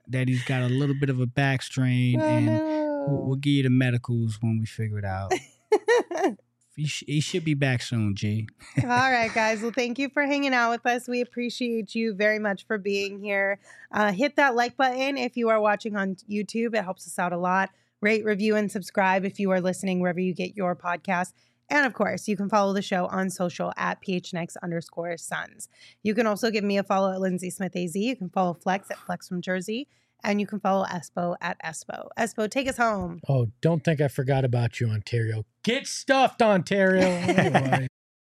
that he's got a little bit of a back strain, and we'll give you the medicals when we figure it out. He should be back soon, G. All right, guys. Well, thank you for hanging out with us. We appreciate you very much for being here. Hit that like button if you are watching on YouTube. It helps us out a lot. Rate, review, and subscribe if you are listening wherever you get your podcast. And of course, you can follow the show on social at PHNX_Suns. You can also give me a follow at Lindsay Smith AZ. You can follow Flex at Flex from Jersey. And you can follow Espo at Espo. Espo, take us home. Oh, don't think I forgot about you, Ontario. Get stuffed, Ontario. Anyway.